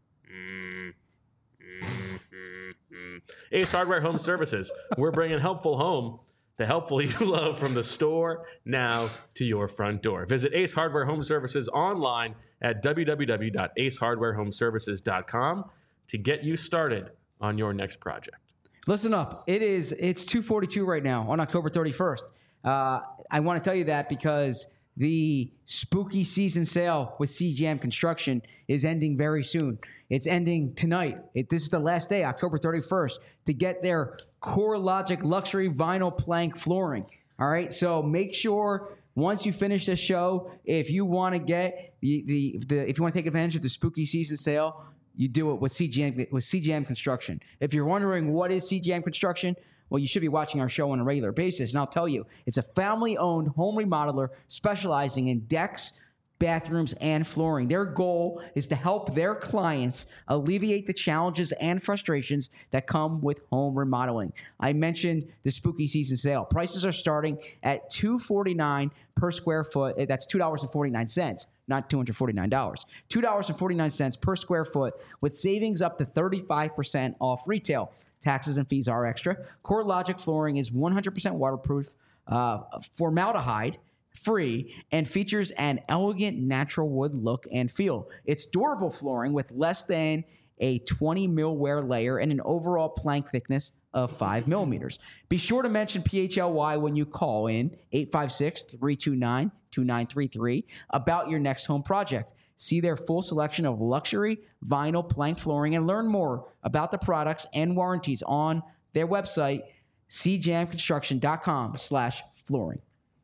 mm, mm, mm, mm. Ace Hardware Home Services. We're bringing helpful home, the helpful you love, from the store now to your front door. Visit Ace Hardware Home Services online at w w w dot ace hardware home services dot com to get you started on your next project. Listen up. It is, it's two forty-two right now on October thirty-first. Uh, I want to tell you that because the spooky season sale with C G M Construction is ending very soon. It's ending tonight. It, this is the last day, October thirty-first, to get their CoreLogic luxury vinyl plank flooring. All right. So make sure once you finish the show, if you want to get the, the, the, if you want to take advantage of the spooky season sale, you do it with C G M, with C G M Construction. If you're wondering what is C G M Construction, well, you should be watching our show on a regular basis, and I'll tell you, it's a family-owned home remodeler specializing in decks, bathrooms, and flooring. Their goal is to help their clients alleviate the challenges and frustrations that come with home remodeling. I mentioned the spooky season sale. Prices are starting at two hundred forty-nine dollars per square foot. That's two dollars and forty-nine cents, not two hundred forty-nine dollars. two dollars and forty-nine cents per square foot, with savings up to thirty-five percent off retail. Taxes and fees are extra. CoreLogic flooring is one hundred percent waterproof, uh, formaldehyde free, and features an elegant natural wood look and feel. It's durable flooring with less than a twenty mil wear layer and an overall plank thickness of five millimeters. Be sure to mention P H L Y when you call in eight five six, three two nine, two nine three three about your next home project. See their full selection of luxury vinyl plank flooring and learn more about the products and warranties on their website, c jam construction dot com slash flooring.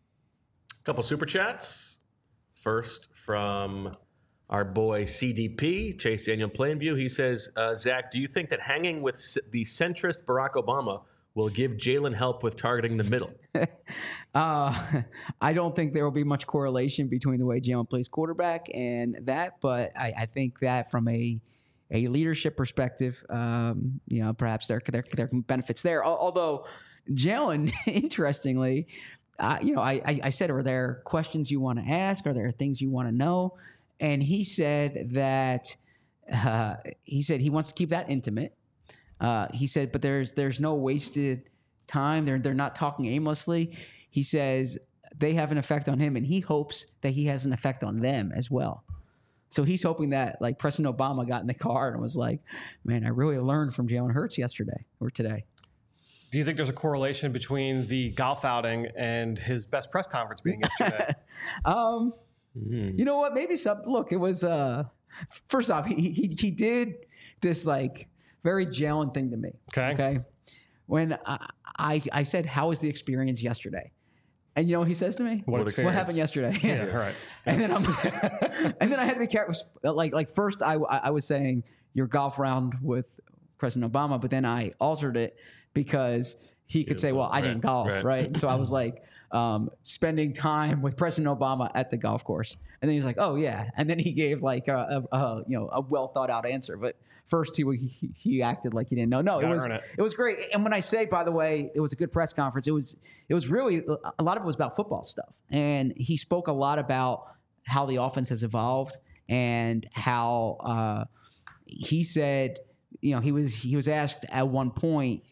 Couple super chats. First from our boy C D P, Chase Daniel Plainview. He says, uh, Zach, do you think that hanging with c- the centrist Barack Obama will give Jalen help with targeting the middle? uh, I don't think there will be much correlation between the way Jalen plays quarterback and that, but I, I think that from a a leadership perspective, um, you know, perhaps there there there are benefits there. Although Jalen, interestingly, uh, you know, I, I I said, are there questions you want to ask? Are there things you want to know? And he said that uh, he said he wants to keep that intimate. Uh, he said, but there's there's no wasted time. They're they're not talking aimlessly. He says they have an effect on him, and he hopes that he has an effect on them as well. So he's hoping that like President Obama got in the car and was like, "Man, I really learned from Jalen Hurts yesterday or today." Do you think there's a correlation between the golf outing and his best press conference being yesterday? um, mm. You know what? Maybe some. Look, it was. Uh, first off, he he he did this like very Jalen thing to me. Okay. Okay. When I, I I said, "How was the experience yesterday?" And you know what he says to me? What, what, what happened yesterday? Yeah, right. And then I'm, and then I had to be careful. Like like first I I was saying your golf round with President Obama, but then I altered it because he could say, "Well, I didn't golf," right? right? So I was like, um, spending time with President Obama at the golf course, and then he's like, "Oh yeah," and then he gave like a, a, a you know a well thought out answer, but. First, he, he he acted like he didn't know. No, it was it. it was great. And when I say, by the way, it was a good press conference. It was it was really a lot of it was about football stuff, and he spoke a lot about how the offense has evolved and how uh, he said, you know, he was he was asked at one point,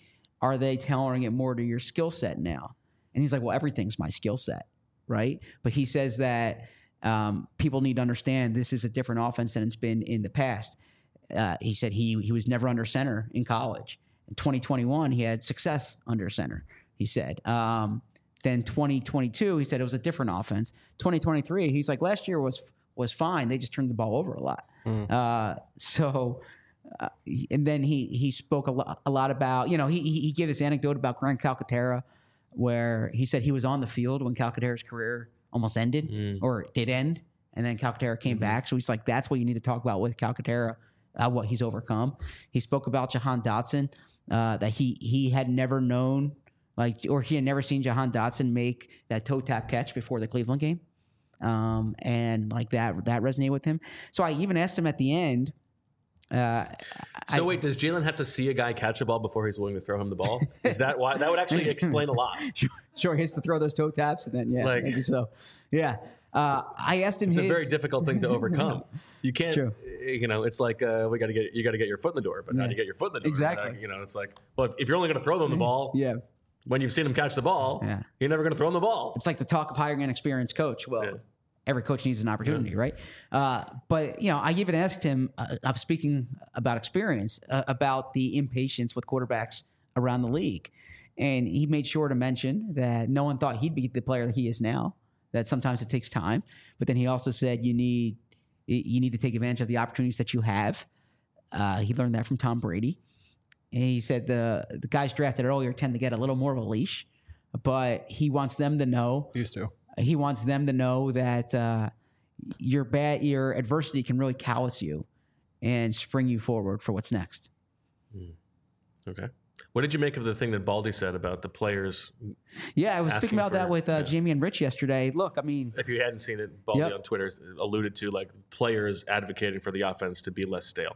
are they tailoring it more to your skill set now? And he's like, well, everything's my skill set, right? But he says that um, people need to understand this is a different offense than it's been in the past. Uh, he said he he was never under center in college. In twenty twenty-one, he had success under center, he said. Um, then twenty twenty-two, he said it was a different offense. twenty twenty-three, he's like, last year was was fine. They just turned the ball over a lot. Mm. Uh, so, uh, and then he he spoke a lot, a lot about, you know, he, he gave this anecdote about Grant Calcaterra, where he said he was on the field when Calcaterra's career almost ended mm. or did end. And then Calcaterra came mm-hmm. back. So he's like, that's what you need to talk about with Calcaterra, uh, what he's overcome. He spoke about Jahan Dotson, uh, that he he had never known, like, or he had never seen Jahan Dotson make that toe tap catch before the Cleveland game. Um, and like that, that resonated with him. So I even asked him at the end. Uh, so I, wait, does Jalen have to see a guy catch a ball before he's willing to throw him the ball? Is that why? That would actually explain a lot. Sure, sure, he has to throw those toe taps, and then yeah, like, maybe so. Yeah, uh, I asked him. It's his, a very difficult thing to overcome. You can't, True. you know, it's like uh, we got to get you got to get your foot in the door, but yeah. how do you get your foot in the door? Exactly. Uh, you know, it's like, well, if, if you're only going to throw them the ball, yeah. when you've seen them catch the ball, yeah. you're never going to throw them the ball. It's like the talk of hiring an experienced coach. Well. Yeah. Every coach needs an opportunity, yeah. right? Uh, but, you know, I even asked him, uh, I'm speaking about experience, uh, about the impatience with quarterbacks around the league. And he made sure to mention that no one thought he'd be the player he is now, that sometimes it takes time. But then he also said you need you need to take advantage of the opportunities that you have. Uh, he learned that from Tom Brady. And he said the, the guys drafted earlier tend to get a little more of a leash, but he wants them to know. Used to. He wants them to know that uh, your bad, your adversity can really callous you and spring you forward for what's next. Mm. Okay. What did you make of the thing that Baldy said about the players? Yeah, I was speaking about for, that with uh, yeah. Jamie and Rich yesterday. Look, I mean, if you hadn't seen it, Baldy yep. on Twitter alluded to like players advocating for the offense to be less stale.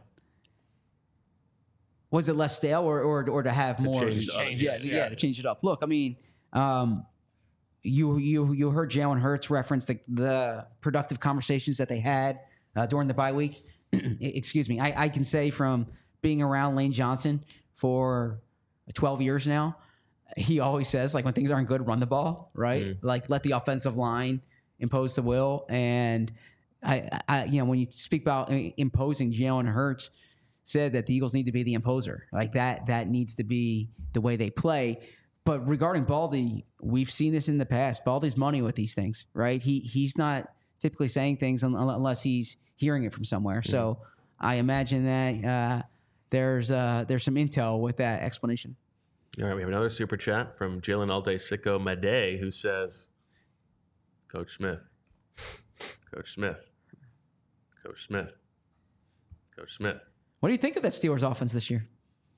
Was it less stale, or or, or to have to more? Change uh, yeah, yeah, yeah, to change it up. Look, I mean. Um, You you you heard Jalen Hurts reference the, the productive conversations that they had uh, during the bye week. Excuse me. I, I can say from being around Lane Johnson for twelve years now, he always says, like, when things aren't good, run the ball, right? Mm. Like, let the offensive line impose the will. And, I, I you know, when you speak about imposing, Jalen Hurts said that the Eagles need to be the imposer. Like, that that needs to be the way they play. But regarding Baldy, we've seen this in the past. Baldy's money with these things, right? He he's not typically saying things unless he's hearing it from somewhere. Yeah. So I imagine that uh, there's uh, there's some intel with that explanation. All right, we have another super chat from Jalen Alday Sicko Made, who says, Coach Smith, Coach Smith, Coach Smith, Coach Smith. What do you think of that Steelers offense this year?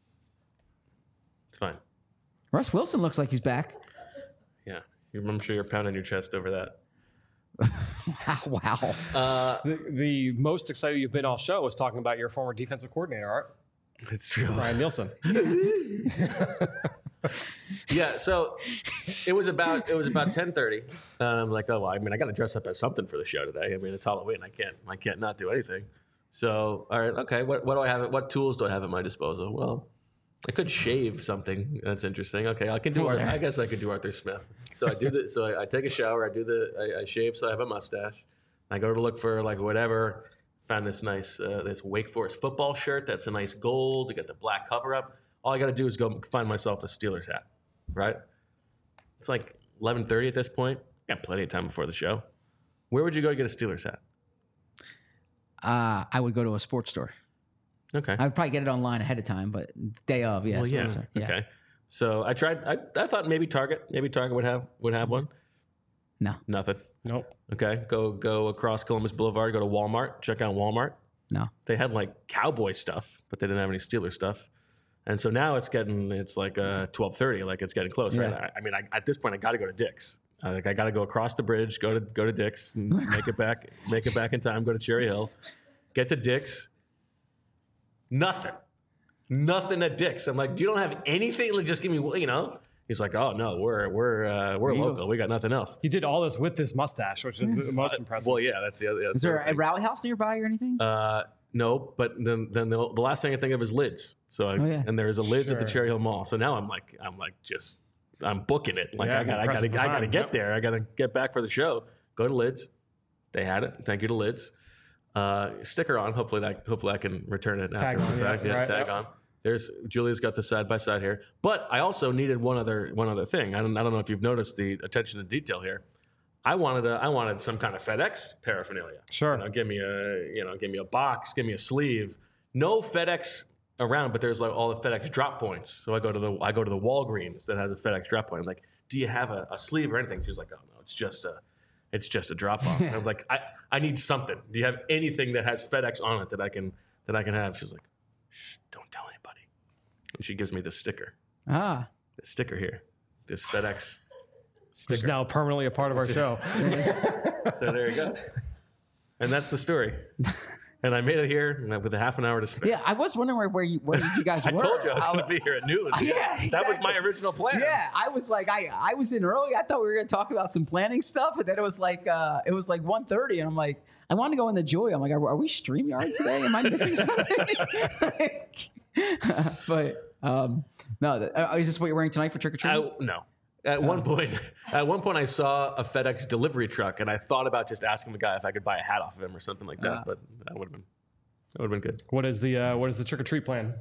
It's fine. Russ Wilson looks like he's back. Yeah. I'm sure you're pounding your chest over that. Wow. Uh, the, the most excited you've been all show was talking about your former defensive coordinator, Art. It's true. Ryan Nielsen. Yeah, so it was about it was about ten thirty. And I'm like, oh well, I mean I gotta dress up as something for the show today. I mean it's Halloween. I can't I can't not do anything. So all right, okay, what what do I have what tools do I have at my disposal? Well, I could shave something. That's interesting. Okay, I can do. Arthur, I guess I could do Arthur Smith. So I do the. So I, I take a shower. I do the. I, I shave. So I have a mustache. I go to look for like whatever. Found this nice uh, this Wake Forest football shirt. That's a nice gold. To get the black cover up. All I got to do is go find myself a Steelers hat. Right. It's like eleven thirty at this point. Got plenty of time before the show. Where would you go to get a Steelers hat? Uh, I would go to a sports store. Okay. I'd probably get it online ahead of time, but day of, yeah. Well, yeah. yeah. Okay. So I tried. I, I thought maybe Target, maybe Target would have would have one. No. Nothing. Nope. Okay. Go go across Columbus Boulevard. Go to Walmart. Check out Walmart. No. They had like Cowboy stuff, but they didn't have any Steelers stuff. And so now it's getting it's like uh, twelve thirty. Like it's getting close. Yeah. Right? I, I mean, I, at this point, I got to go to Dick's. Uh, like I got to go across the bridge. Go to go to Dick's. And make it back. Make it back in time. Go to Cherry Hill. Get to Dick's. Nothing. Nothing at Dick's. I'm like, you don't have anything? Like, just give me, you know. He's like, oh no, we're we're uh, we're Eagles. local. We got nothing else. You did all this with this mustache, which is the most impressive. Well, yeah, that's the other. Is there a rally house nearby or anything? Uh, no, but then then the, the last thing I think of is lids. So I, Oh, yeah. and there's a lids Sure. at the Cherry Hill Mall. So now I'm like I'm like just I'm booking it. Like Yeah, I got I impressive got to I got to time. get Yep. there. I got to get back for the show. Go to lids. They had it. Thank you to lids. Uh, sticker on. Hopefully that hopefully I can return it Tag after on, the yeah, fact. Yeah, right, tag yep. on. There's Julia's got the side by side here. But I also needed one other one other thing. I don't I don't know if you've noticed the attention to detail here. I wanted a I wanted some kind of FedEx paraphernalia. Sure. You know, give me a you know, give me a box, give me a sleeve. No FedEx around, but there's like all the FedEx drop points. So I go to the I go to the Walgreens that has a FedEx drop point. I'm like, do you have a, a sleeve or anything? She's like, oh no, it's just a it's just a drop off. And I'm like, I, I need something. Do you have anything that has FedEx on it that I can that I can have? She's like, shh, don't tell anybody. And she gives me the sticker. Ah. The sticker here. This FedEx Which is sticker. now permanently a part of our show. So there you go. And that's the story. And I made it here with a half an hour to spare. Yeah, I was wondering where, where you where you guys I were. told you I was I- going to be here at noon. Yeah, That was my exactly. original plan. Yeah, I was like, I I was in early. I thought we were gonna talk about some planning stuff, and then it was like, uh, it was like one thirty, and I'm like, I want to go in the Joy. I'm like, are, are we StreamYard today? Am I missing something? but um, no, th- uh, is this what you're wearing tonight for trick or treating? I, no. At one point, at one point, I saw a FedEx delivery truck, and I thought about just asking the guy if I could buy a hat off of him or something like that. Ah. But that would have been that would have been good. What is the uh, what is the trick or treat plan?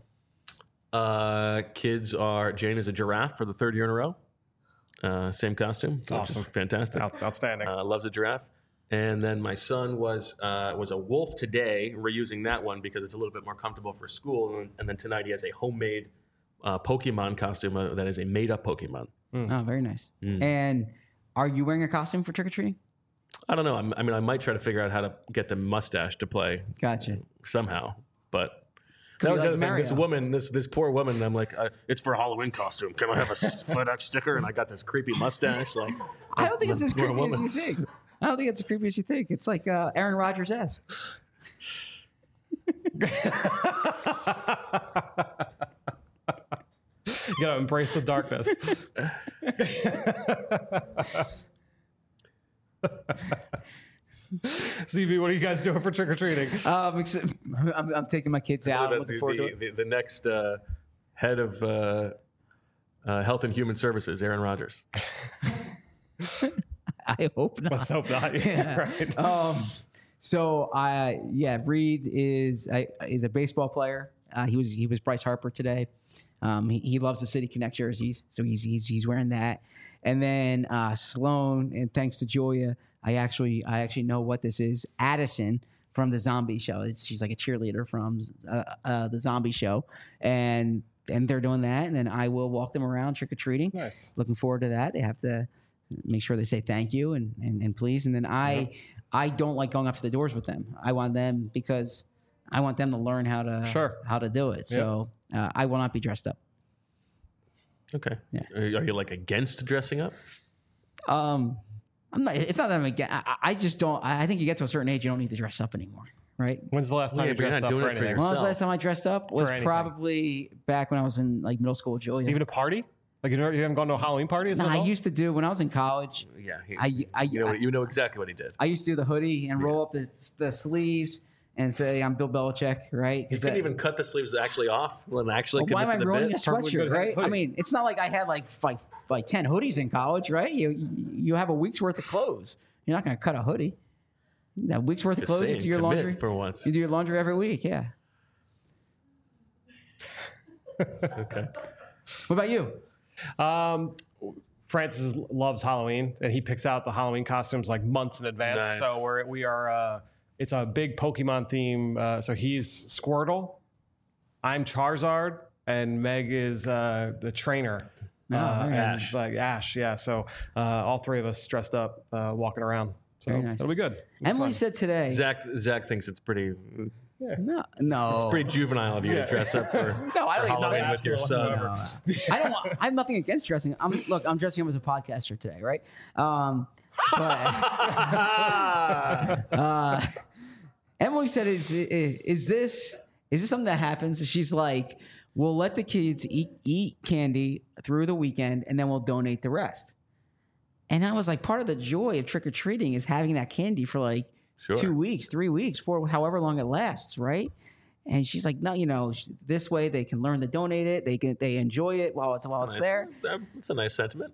Uh, kids are Jane is a giraffe for the third year in a row. Uh, same costume, which Awesome. is fantastic. Out- outstanding. Uh, loves a giraffe. And then my son was uh, was a wolf today. We're using that one because it's a little bit more comfortable for school. And, and then tonight he has a homemade uh, Pokemon costume uh, that is a made up Pokemon. Oh, very nice. Mm. And are you wearing a costume for trick or treating? I don't know. I'm, I mean, I might try to figure out how to get the mustache to play Gotcha. somehow. But Could that be was the like other thing. This Mario. woman, this this poor woman. I'm like, uh, it's for a Halloween costume. Can I have a FedEx sticker? And I got this creepy mustache. Like, I don't think it's as we're a creepy as woman. you think. I don't think it's as creepy as you think. It's like uh, Aaron Rodgers esque. You gotta embrace the darkness. C V, what are you guys doing for trick or treating? Um, ex- I'm, I'm taking my kids out. the, Looking the, forward to the, it. the, the next uh, head of uh, uh, Health and Human Services, Aaron Rodgers. I hope not. Let's hope not. Yeah. Right. Um, so I yeah, Reed is I, is a baseball player. Uh, he was he was Bryce Harper today. Um, he, he loves the City Connect jerseys, so he's he's he's wearing that. And then uh, Sloan, and thanks to Julia, I actually I actually know what this is. Addison from the Zombie Show. It's, she's like a cheerleader from uh, uh, the Zombie Show, and and they're doing that. And then I will walk them around trick or treating. Nice. Looking forward to that. They have to make sure they say thank you and and, and please. And then I I don't like going up to the doors with them. I want them because I want them to learn how to Sure. how to do it. So uh, I will not be dressed up. Okay. Yeah. Are you, are you like against dressing up? Um, I'm not. It's not that I'm against. I, I just don't. I I think you get to a certain age, you don't need to dress up anymore, right? When's the last time Yeah, you but you're dressed not up doing for it for anything? yourself. When was the last time I dressed up? Was anything. probably back when I was in like middle school with Julia. Even a party? Like you, never, you haven't gone to a Halloween party? As no, an I adult? used to do when I was in college. Yeah. He, I I you know, I, you know exactly what he did. I used to do the hoodie and roll up the, the sleeves and say I'm Bill Belichick, right? You 'Cause couldn't that- even cut the sleeves actually off and actually Well, why am commit I to the ruining bit. a Perfectly sweatshirt, good right? I hoodie. mean, it's not like I had like like like ten hoodies in college, right? You you have a week's worth of clothes. You're not going to cut a hoodie. A week's worth of Just clothes. saying, You do your commit laundry for once. You do your laundry every week, yeah. Okay. What about you? Um, Francis loves Halloween, and he picks out the Halloween costumes like months in advance. Nice. So we're we are. Uh, it's a big Pokemon theme. Uh, so he's Squirtle, I'm Charizard, and Meg is uh, the trainer. Oh, uh, very and, nice. like Ash, yeah. So uh, all three of us dressed up, uh, walking around. So Very nice. that'll be good. Emily said today. Zach Zach thinks it's pretty No, no, pretty juvenile of you Yeah. to dress up for no. I think it's Halloween bad. with your son. No, I don't want. I have nothing against dressing. I'm look. I'm dressing up as a podcaster today, right? Um, but uh, Emily said, "Is is this is this something that happens?" She's like, "We'll let the kids eat eat candy through the weekend, and then we'll donate the rest." And I was like, part of the joy of trick or treating is having that candy for like Sure. two weeks, three weeks, for however long it lasts, right? And she's like, no, you know, this way they can learn to donate it. They can, they enjoy it while it's while it's Nice. there. That's a nice sentiment.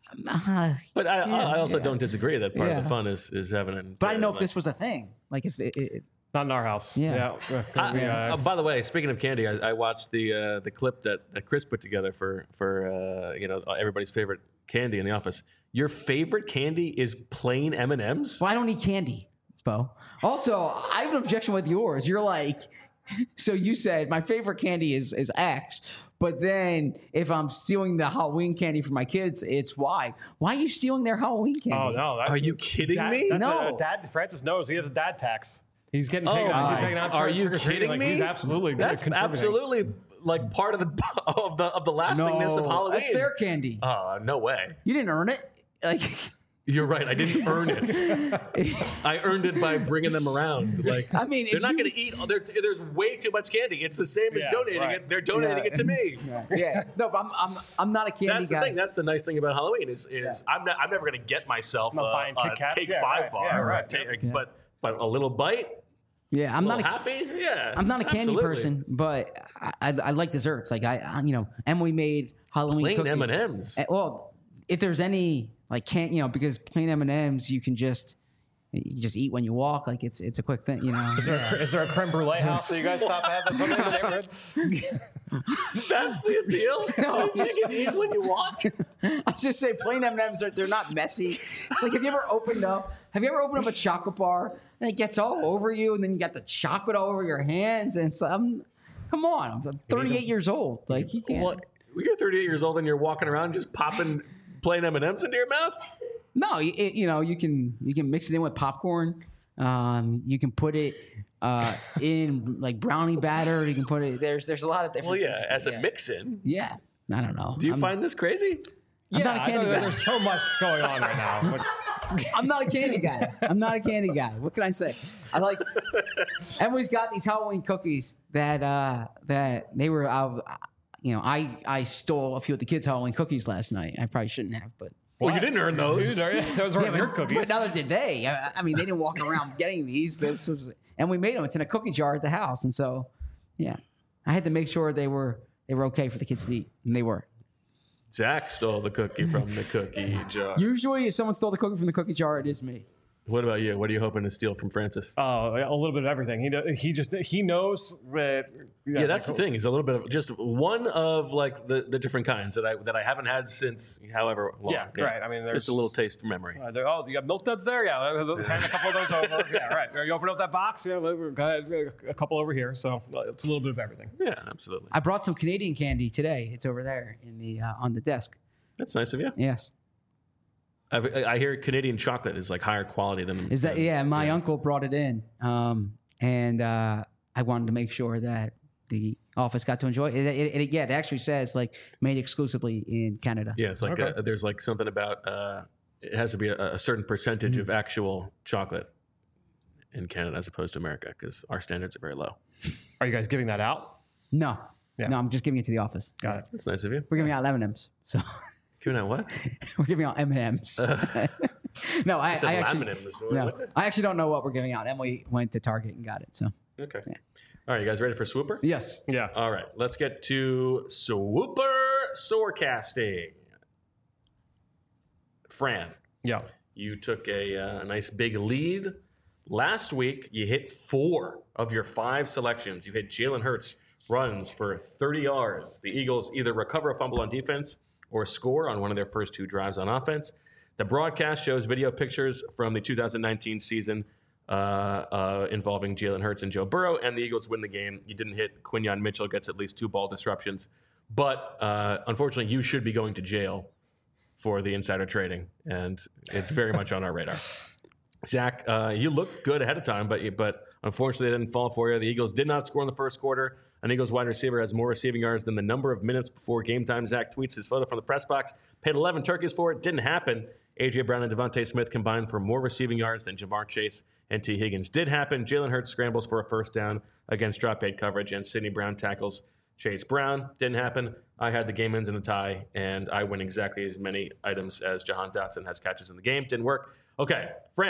Uh, But I, Yeah, I also yeah. don't disagree that part Yeah. of the fun is is having it. but I didn't know if like- this was a thing. Like if it, it, Not in our house. Yeah. Yeah. I- Yeah. uh, by the way, speaking of candy, I, I watched the uh, the clip that, that Chris put together for for uh, you know everybody's favorite candy in the office. Your favorite candy is plain M and M's? well, I don't eat candy, Bo. Also, I have an objection with yours. You're like, so you said my favorite candy is is X, but then if I'm stealing the Halloween candy for my kids, it's Y. Why are you stealing their Halloween candy? Oh no! That, Are you kidding dad, me? That's No. a, dad. Francis knows he has a dad tax. He's getting Oh, taken out. He's my. taken out Are trick- you trick-or-treating. kidding Like, me? He's absolutely That's contributing. absolutely like part of the of the of the lastingness of Halloween. that's their candy. Uh, no way. You didn't earn it. Like, You're right. I didn't earn it. I earned it by bringing them around. Like I mean, they're if not you- going to eat. There, there's way too much candy. It's the same as Yeah, donating right. it. They're donating Yeah. it to me. yeah, no, but I'm I'm I'm not a candy That's guy. the thing. That's the nice thing about Halloween is is I'm not, I'm never going to get myself I'm not a, buying Kit a Kats. Take Yeah, Five right. bar, Yeah, or a right. take- Yeah. but but a little bite, yeah, I'm a not little a happy. Yeah, I'm not a candy absolutely. person, but I, I, I like desserts. Like I, I, you know, Emily made Halloween Plain cookies. M and M's. Eh, Well, if there's any like can't you know because plain M and M's you can just you just eat when you walk. Like it's it's a quick thing, you know. Is there, a, is there a creme brulee house that you guys stop at? That's something in the neighborhood. That's the appeal. No. You can eat when you walk. I just say plain M and M's are they're not messy. It's like have you ever opened up have you ever opened up a chocolate bar and it gets all over you and then you got the chocolate all over your hands and so I'm come on I'm thirty-eight years old like you can't. Well, you're thirty-eight years old and you're walking around just popping plain M and M's into your mouth. No, you, it, you know you can you can mix it in with popcorn. Um, you can put it uh, in like brownie batter. You can put it. There's there's a lot of different. Well, yeah, things. as a yeah. mix-in. Yeah, I don't know. Do you I'm, find this crazy? I'm not a I candy know guy. There's so much going on right now. But I'm not a candy guy. I'm not a candy guy. What can I say? I like. Emily's got these Halloween cookies that uh, that they were. Uh, you know, I I stole a few of the kids' Halloween cookies last night. I probably shouldn't have, but. Well, you didn't earn those. Dude, are- those were Yeah, your but, cookies. but neither did they. I, I mean, they didn't walk around getting these. This was, and we made them. It's in a cookie jar at the house, and so, yeah, I had to make sure they were they were okay for the kids to eat, and they were. Zach stole the cookie from the cookie jar. Usually, if someone stole the cookie from the cookie jar, it is me. What about you? What are you hoping to steal from Francis? Oh, a little bit of everything. He do- he just he knows that. Yeah, that's the thing. He's a little bit of just one of like the, the different kinds that I that I haven't had since however long. Yeah, right. I mean, there's just a little taste of memory. Uh, there- oh, you got milk duds there? Yeah, hand a couple of those over. Yeah, right. You open up that box. Yeah, we've got a couple over here. So uh, it's a little bit of everything. Yeah, absolutely. I brought some Canadian candy today. It's over there in the uh, on the desk. That's nice of you. Yes, I've, I hear Canadian chocolate is like higher quality than. is that than- yeah? My uncle brought it in, um, and uh, I wanted to make sure that the office got to enjoy it. It, it, it. Yeah, it actually says like made exclusively in Canada. Yeah, it's like Okay. a, there's like something about uh, it has to be a, a certain percentage Mm-hmm. of actual chocolate in Canada as opposed to America because our standards are very low. Are you guys giving that out? No, Yeah. no, I'm just giving it to the office. Got it. That's nice of you. We're giving out M and M's, so Giving out what? we're giving out M and M's. No, I, I said I actually, laminate. no, I actually don't know what we're giving out. Emily went to Target and got it. So Okay. All right, you guys ready for Swooper? yes, Yeah. All right, let's get to Swooper Sorecasting. Fran, Yeah. you took a, uh, a nice big lead. Last week, you hit four of your five selections. You hit Jalen Hurts runs for thirty yards. The Eagles either recover a fumble on defense or score on one of their first two drives on offense. The broadcast shows video pictures from the two thousand nineteen season uh, uh, involving Jalen Hurts and Joe Burrow, and the Eagles win the game. You didn't hit. Quinyon Mitchell gets at least two ball disruptions. But uh, unfortunately, you should be going to jail for the insider trading, and it's very much on our radar. Zach, uh, you looked good ahead of time, but you, but unfortunately, it didn't fall for you. The Eagles did not score in the first quarter. An Eagles wide receiver has more receiving yards than the number of minutes before game time. Zach tweets his photo from the press box. Paid eleven turkeys for it. Didn't happen. A J. Brown and Devontae Smith combined for more receiving yards than Jamar Chase and T. Higgins. Did happen. Jalen Hurts scrambles for a first down against drop eight coverage, and Sidney Brown tackles Chase Brown. Didn't happen. I had the game ends in a tie, and I win exactly as many items as Jahan Dotson has catches in the game. Didn't work. Okay, Fran,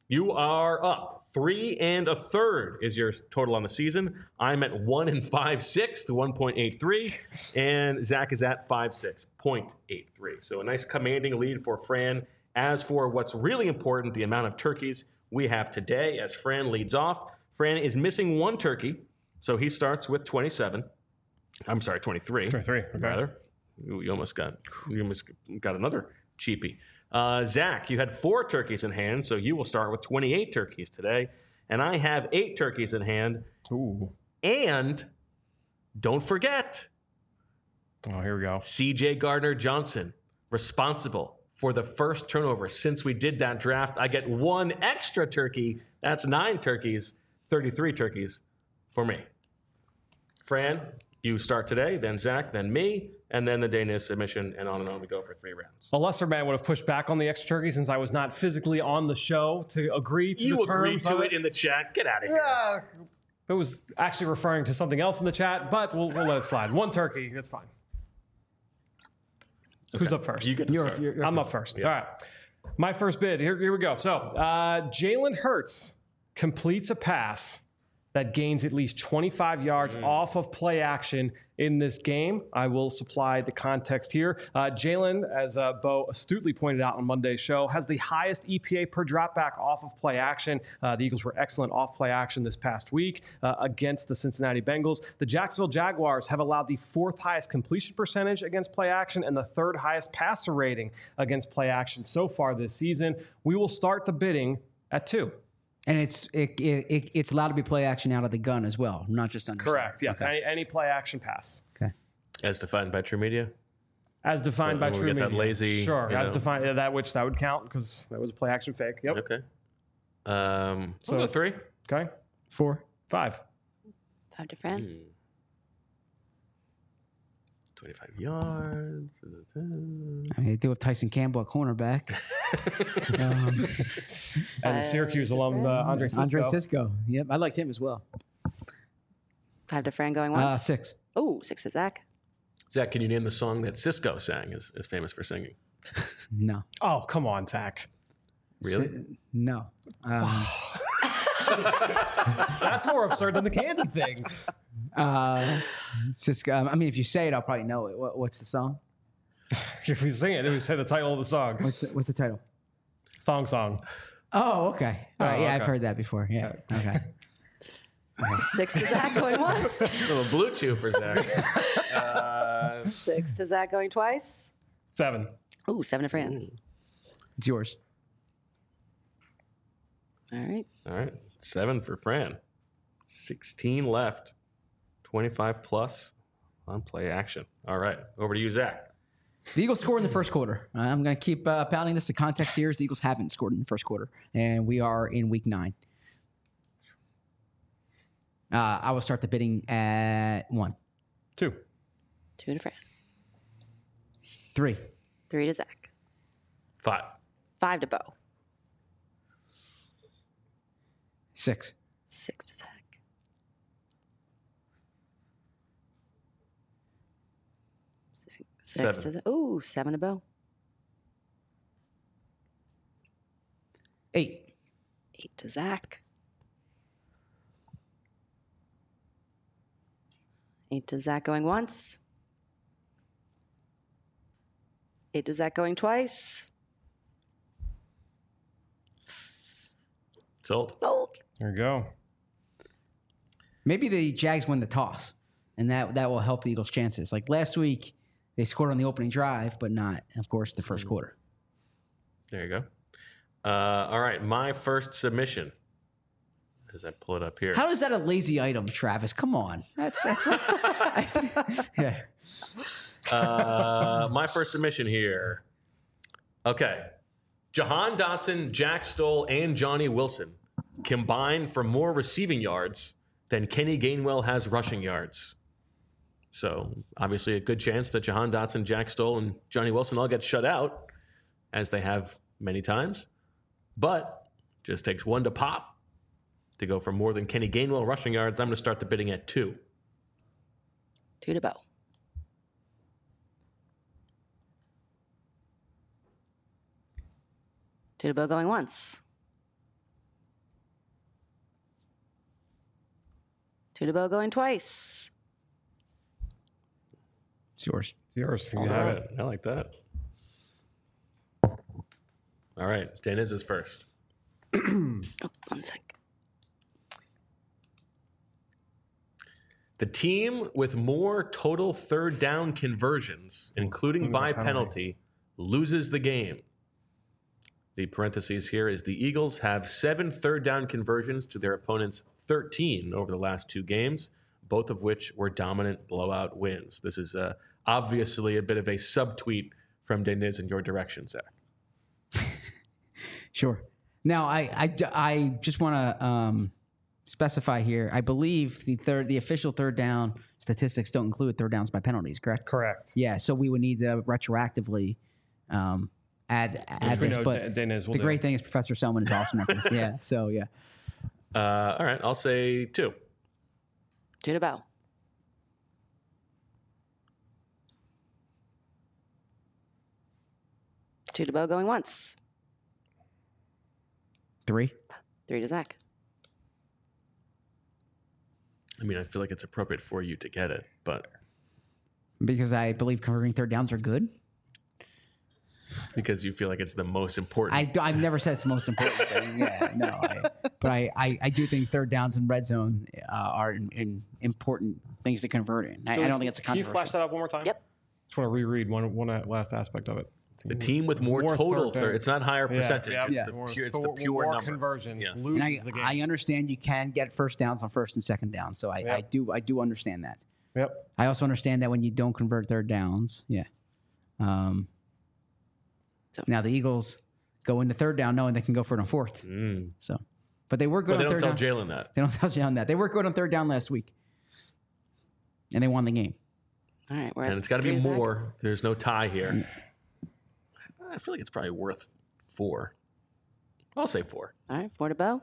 You are up three and a third is your total on the season. I'm at one and five sixths, one point eight three, and Zach is at five six point eight three. So a nice commanding lead for Fran. As for what's really important, the amount of turkeys we have today, as Fran leads off. Fran is missing one turkey, so he starts with twenty-seven. I'm sorry, twenty-three. twenty-three, okay. Rather. You almost got you almost got another cheapie. Uh, Zach, you had four turkeys in hand, so you will start with twenty-eight turkeys today. And I have eight turkeys in hand. Ooh. And don't forget, oh, here we go. C J Gardner-Johnson, responsible for the first turnover since we did that draft. I get one extra turkey. That's nine turkeys, thirty-three turkeys for me. Fran, you start today, then Zach, then me, and then the Danish submission, and on and on we go for three rounds. A lesser man would have pushed back on the extra turkey since I was not physically on the show to agree to You the agreed terms to of it in the chat. Get out of here. Yeah, it was actually referring to something else in the chat, but we'll, we'll let it slide. One turkey, that's fine. Okay. Who's up first? You get to You're- start. you're- I'm up first. Yes. All right. My first bid. Here, here we go. So uh, Jalen Hurts completes a pass that gains at least twenty-five yards Mm. off of play action in this game. I will supply the context here. Uh, Jalen, as uh, Bo astutely pointed out on Monday's show, has the highest E P A per dropback off of play action. Uh, the Eagles were excellent off play action this past week uh, against the Cincinnati Bengals. The Jacksonville Jaguars have allowed the fourth highest completion percentage against play action and the third highest passer rating against play action so far this season. We will start the bidding at two. And it's it, it, it it's allowed to be play action out of the gun as well, not just under. Correct. Yes. Okay. Any, any play action pass. Okay. As defined by True Media. As defined by When we True get that Media. lazy, Sure. you As know. defined, yeah, that which that would count because that was a play action fake. Yep. Okay. Um, So- so three. Okay. Four. Five. Five to Fran. Hmm. twenty-five yards. I mean, they do have Tyson Campbell at cornerback. um, And the Syracuse alum uh, Andre Cisco. Andre Cisco. Yep, I liked him as well. Five to Fran going Uh, once. six. Oh, six to Zach. Zach, can you name the song that Cisco sang? Is, is famous for singing? No. Oh, come on, Zach. Really? Si- no. Um, That's more absurd than the candy thing. uh, Cisco. um, I mean, if you say it, I'll probably know it. What, what's the song? If we sing it, we say the title of the song. What's the, what's the title? Thong song. Oh, okay. All right. Oh, Yeah, I've okay. heard that before. Yeah. Okay. Six to Zach going once. A little blue chew for Zach. uh, Six to Zach going twice. Seven. Ooh, seven to Fran. It's yours. All right. all right. Seven for Fran. sixteen left. twenty-five plus on play action. All right. Over to you, Zach. The Eagles scored in the first quarter. Uh, I'm going to keep uh, pounding this. The context here is the Eagles haven't scored in the first quarter, and we are in week nine. Uh, I will start the bidding at one. Two. Two to Fran. Three. Three to Zach. Five. Five to Bo. Six. Six to Zach. Six, six Seven. to the, ooh, seven to Bo. Eight. Eight to Zach. Eight to Zach going once. Eight to Zach going twice. Sold. Sold. There you go. Maybe the Jags win the toss, and that that will help the Eagles' chances. Like last week, they scored on the opening drive, but not, of course, the first quarter. There you go. Uh, all right. My first submission. As I pull it up here. How is that a lazy item, Travis? Come on. That's that's. yeah. Uh, my first submission here. Okay. Jahan Dotson, Jack Stoll, and Johnny Wilson combined for more receiving yards than Kenny Gainwell has rushing yards. So obviously a good chance that Jahan Dotson, Jack Stoll, and Johnny Wilson all get shut out, as they have many times. But just takes one to pop to go for more than Kenny Gainwell rushing yards. I'm going to start the bidding at two. Two to Bo. Two to Bo going once. Two to bow going twice. It's yours. It's yours. You All have right. it. I like that. All right. Daniz is first. Oh, one sec. The team with more total third down conversions, including by penalty, loses the game. The parentheses here is the Eagles have seven third down conversions to their opponent's thirteen over the last two games, both of which were dominant blowout wins. This is uh, obviously a bit of a subtweet from Deniz in your direction, Zach. Sure. Now, I, I, I just want to um, specify here. I believe the third, the official third down statistics don't include third downs by penalties, correct? Correct. Yeah. So we would need to retroactively um, add add we this. know But Daniz will the do. great thing is Professor Selman is awesome at this. Yeah. So yeah. Uh, all right. I'll say two. Two to bow. Two to bow going once. Three. Three to Zach. I mean, I feel like it's appropriate for you to get it, but Because I believe converting third downs are good. because you feel like it's the most important. I, I've never said it's the most important thing. Yeah, no. I, but I, I, I do think third downs in red zone uh, are in, in important things to convert in. I, I don't think it's a Can you controversial. flash that up one more time? Yep. Just want to reread one one last aspect of it. the team with more, More total third third. down. It's not higher Yeah, percentage. yeah, it's, yeah. the More pure, it's the thor- pure more number. conversions. Yes. Loses And I, the game. I understand you can get first downs on first and second down, so I, Yep. I do I do understand that. Yep. I also understand that when you don't convert third downs, yeah. Um, So- now the Eagles go into third down knowing they can go for it on fourth. Mm. So, but they were good But they on don't third tell down. Jalen that. They don't tell Jalen that they were good on third down last week, and they won the game. All right. We're And at it's got to three be Zach. more. There's no tie here. I feel like it's probably worth four. I'll say four. All right. Four to bow.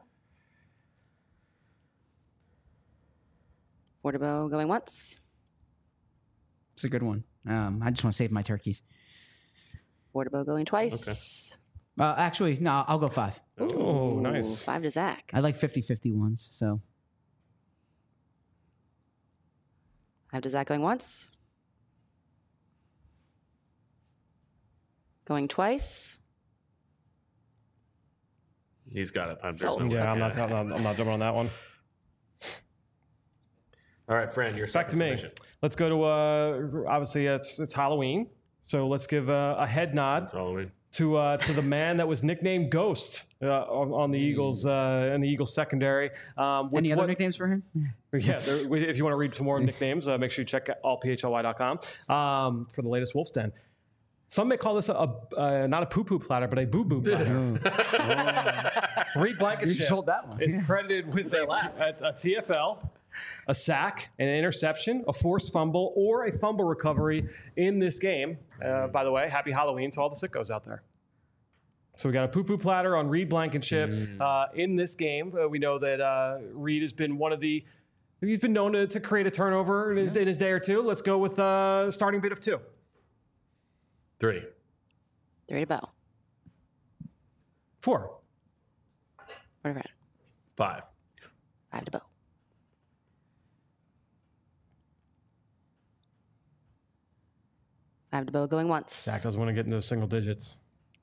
Four to bow going once. It's a good one. Um, I just want to save my turkeys. Four to bow going twice. Uh, actually, no, I'll go five. Oh, Ooh, nice. Five to Zach. I like fifty-fifty ones. So Five to Zach going once. Going twice. He's got it. I'm, there's Sold. no Yeah, I'm okay. not, I'm not. I'm not jumping on that one. All right, Fran, your Back to second me. submission. Let's go to. Uh, obviously, it's it's Halloween, so let's give a, a head nod That's Halloween. to uh, to the man that was nicknamed Ghost uh, on, on the Eagles uh, in the Eagles secondary. Um, with any other what- nicknames for him? Yeah, there, if you want to read some more nicknames, uh, make sure you check all P H L Y dot com um, for the latest Wolf's Den. Some may call this a, a uh, not a poo-poo platter, but a boo-boo platter. Reed You Blankenship just sold that one. is credited with a, a, a T F L, a sack, an interception, a forced fumble, or a fumble recovery in this game. Uh, by the way, happy Halloween to all the sickos out there. So we got a poo-poo platter on Reed Blankenship uh, in this game. Uh, we know that uh, Reed has been one of the he's been known to, to create a turnover in his, in his day or two. Let's go with uh, starting bid of two. Three. Three to bow. Four. Four to Fran. Five. Five to bow. Five to bow going once. Zach doesn't want to get into single digits.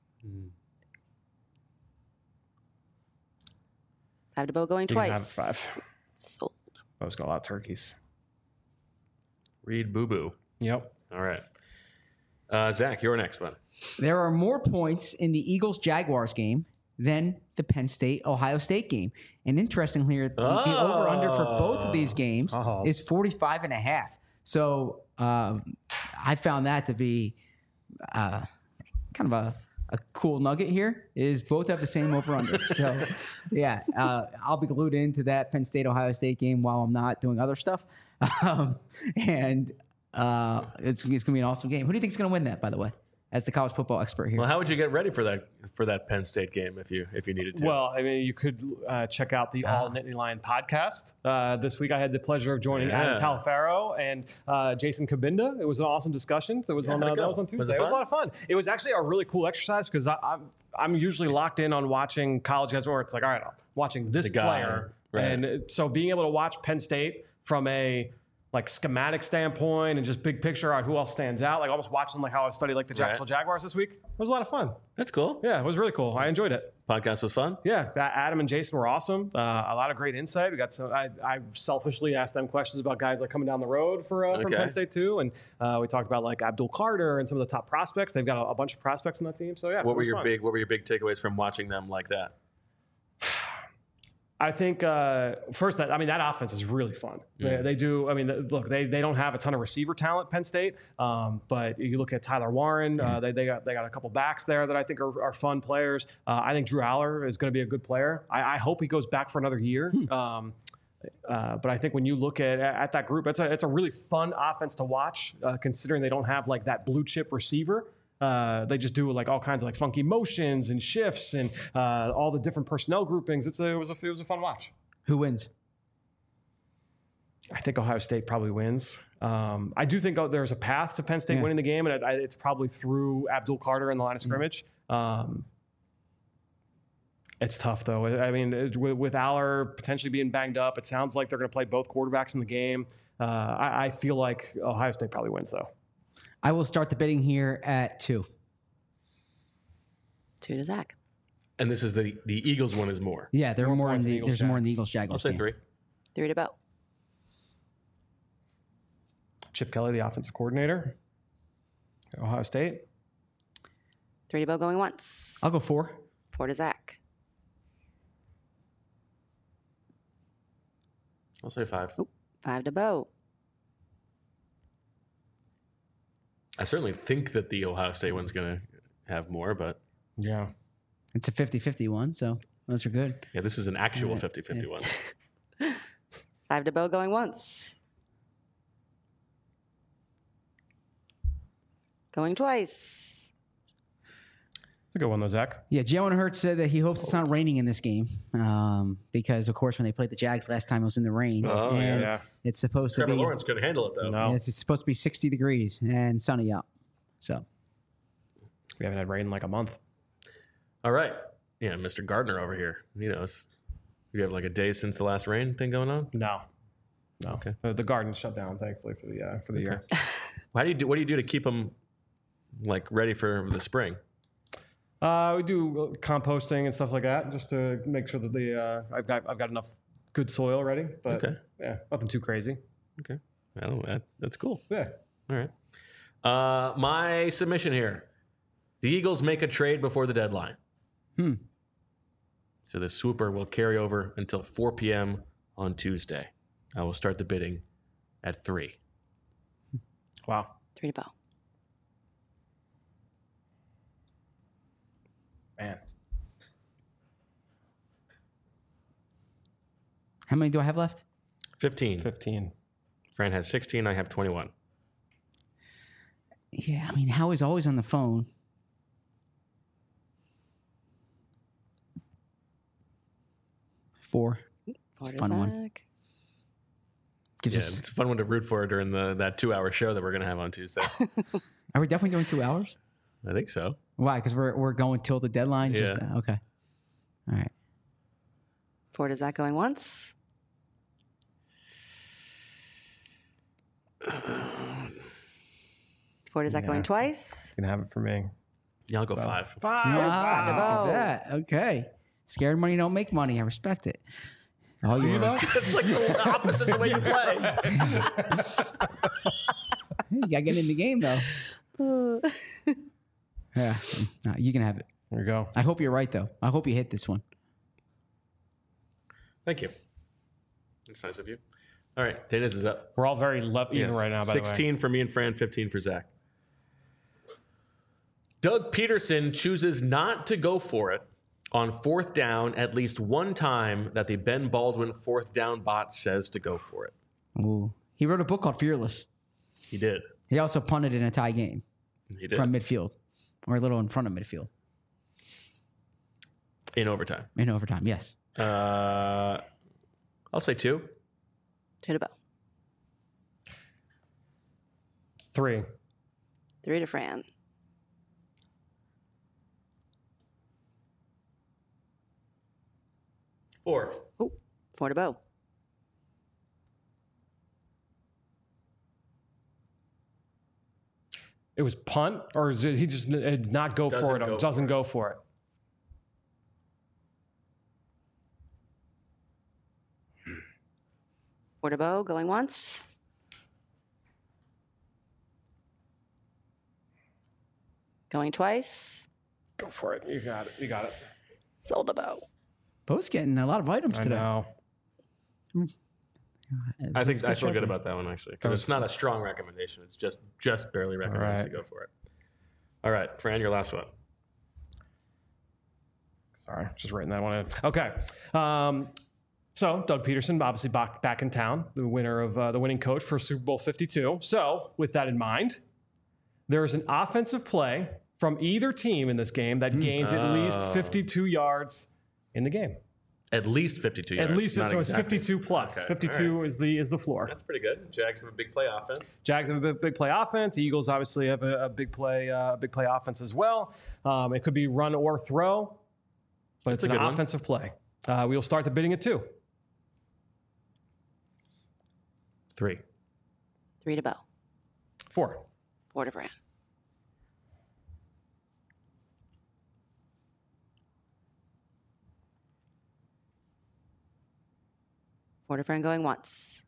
Five to bow going You can have twice. five. Sold. I was got a lot of turkeys. Reed Boo Boo. Yep. All right. Uh, Zach, your next one. There are more points in the Eagles Jaguars game than the Penn State Ohio State game. And interestingly, the, the over under for both of these games Oh. is forty-five and a half. So uh, I found that to be uh, kind of a, a cool nugget here is both have the same over under. So yeah, uh, I'll be glued into that Penn State Ohio State game while I'm not doing other stuff. Um, and uh, it's, it's gonna be an awesome game. Who do you think is gonna win that, by the way, as the college football expert here? Well, how would you get ready for that for that Penn State game if you if you needed to? Well, I mean, you could uh, check out the All Nittany Lion podcast. Uh, this week, I had the pleasure of joining Yeah. Adam Talafaro and uh, Jason Kabinda. It was an awesome discussion. It was Yeah, on how'd uh, it go? that was on Was Tuesday. it It was a fun? lot of fun. It was actually a really cool exercise because I'm I'm usually locked in on watching college guys where it's like, all right, I'm watching this The guy, player, right. and so being able to watch Penn State from a like schematic standpoint and just big picture on who else stands out. Like almost watching like how I studied like the Jacksonville Jaguars this week. It was a lot of fun. That's cool. Yeah, it was really cool. I enjoyed it. Podcast was fun. Yeah, that Adam and Jason were awesome. Uh, a lot of great insight. We got some. I, I selfishly asked them questions about guys like coming down the road for uh, from Okay. Penn State too, and uh, we talked about like Abdul Carter and some of the top prospects. They've got a, a bunch of prospects on that team. So yeah, What it were was your fun. big What were your big takeaways from watching them like that? I think uh, first that I mean that offense is really fun. They, they do. I mean, the- look, they they don't have a ton of receiver talent, Penn State, um, but you look at Tyler Warren. Uh, they they got they got a couple backs there that I think are, are fun players. Uh, I think Drew Aller is going to be a good player. I, I hope he goes back for another year. Um, uh, but I think when you look at at that group, it's a it's a really fun offense to watch, uh, considering they don't have like that blue chip receiver. Uh, they just do like all kinds of like funky motions and shifts and uh, all the different personnel groupings. It's a, it was a, it was a fun watch. Who wins? I think Ohio State probably wins. Um, I do think oh, there's a path to Penn State Yeah. winning the game, and it, I, it's probably through Abdul Carter in the line of scrimmage. Um, it's tough though. I mean, it- with, with Aller potentially being banged up, it sounds like they're going to play both quarterbacks in the game. Uh, I, I feel like Ohio State probably wins though. I will start the bidding here at two. Two to Zach. And this is the the Eagles one is more. Yeah, there are More more in points than the Eagles, there's more in the Jags. Eagles I'll Jaguars say game. three. Three to Bo. Chip Kelly, the offensive coordinator, Ohio State. Three to Bo going once. I'll go four. Four to Zach. I'll say five. Five to Bo. I certainly think that the Ohio State one's going to have more, but Yeah. It's a fifty-fifty one, so those are good. yeah, this is an actual fifty-fifty one. Five to Bo going once. Going twice. It's a good one though, Zach. Yeah, Jalen Hurts said that he hopes it's not raining in this game um, because, of course, when they played the Jags last time, it was in the rain. Oh, and yeah. It's supposed Trevor to be Lawrence could handle it, though. No, it's, it's supposed to be sixty degrees and sunny out. So we haven't had rain in like a month. All right. Yeah, Mister Gardner over here. He knows. You have like a day since the last rain thing going on? No, no. Okay. The, the garden shut down, thankfully, for the uh, for the Okay. year. How do you do? What do you do to keep them like ready for the spring? Uh, we do composting and stuff like that, just to make sure that the uh, I've got I've got enough good soil ready. But Okay. yeah, nothing too crazy. Okay. I don't. That, that's cool. Yeah. All right. Uh, my submission here: the Eagles make a trade before the deadline. Hmm. So the swooper will carry over until four p.m. on Tuesday. I will start the bidding at three. Wow. Three to Bo. Man. how many do I have left? Fifteen. Fifteen. Fran has sixteen. I have twenty-one. Yeah, I mean, Howie's always on the phone. Four. Four It's a to fun one. Zach. Gives Yeah, us- it's a fun one to root for during the that two-hour show that we're gonna have on Tuesday. are we definitely doing two hours? I think so. Why? Because we're we're going till the deadline. Just Yeah. uh, okay. All right. Four to Zach going once. Four to Zach Yeah. going twice. You can have it for me. Yeah, I'll go Well, five. Five. Ah, to look at Bo. that. Okay. Scared money don't make money. I respect it. All Do you yours. though? It's like the opposite of the way you play. Hey, you gotta get in the game though. Yeah, no, you can have it. There you go. I hope you're right though. I hope you hit this one. Thank you. That's nice of you. All right, Dana's is up. We're all very le- even Yes. right now. By sixteen for me and Fran, fifteen for Zach. Doug Peterson chooses not to go for it on fourth down at least one time that the Ben Baldwin fourth down bot says to go for it. Ooh. He wrote a book called Fearless. He did. He also punted in a tie game He did. from midfield, or a little in front of midfield In overtime. in overtime. Yes. Uh, I'll say two. Two to Bo. Three. Three to Fran. Four. Ooh, four to Bo. It was punt, or is it, he just uh, did not go Doesn't for it? go Or doesn't for it. go for it. Portabo going once. Going twice. Go for it. You got it. You got it. Soldabo. Bo's getting a lot of items I today. know. I think It's I good feel good treasure. about that one actually because it's not a strong recommendation. It's just just barely recommends right. to go for it. All right, Fran, your last one. Sorry, just writing that one in. Okay. Um, so Doug Peterson, obviously back, back in town, the winner of uh, the winning coach for Super Bowl fifty-two. So with that in mind, there is an offensive play from either team in this game that gains at least Oh. fifty-two yards in the game. At least fifty-two yards. At least not so it's exactly. fifty-two plus. Okay, fifty-two all right. is the is the floor. That's pretty good. Jags have a big play offense. Jags have a big, big play offense. Eagles obviously have a, a big play uh, big play offense as well. Um, it could be run or throw, but That's it's a an good one. offensive play. Uh, we will start the bidding at two. Three. Three to Bo. Four. Four to Fran. Four to Fran going once.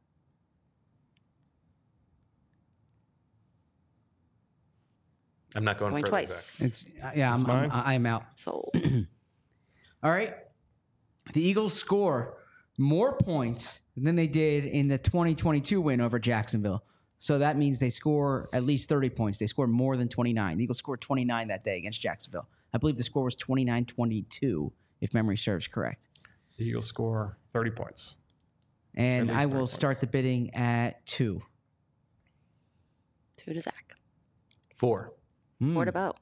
I'm not going, Going further, twice. Zach. It's uh, yeah, I'm, mine? I'm I'm out. Sold. All right. The Eagles score more points than they did in the twenty twenty-two win over Jacksonville. So that means they score at least thirty points. They scored more than twenty-nine. The Eagles scored twenty-nine that day against Jacksonville. I believe the score was twenty-nine twenty-two, if memory serves correct. The Eagles score thirty points. And At least I thirty will points. start the bidding at two. Two to Zach. Four. Hmm. Four to Bo.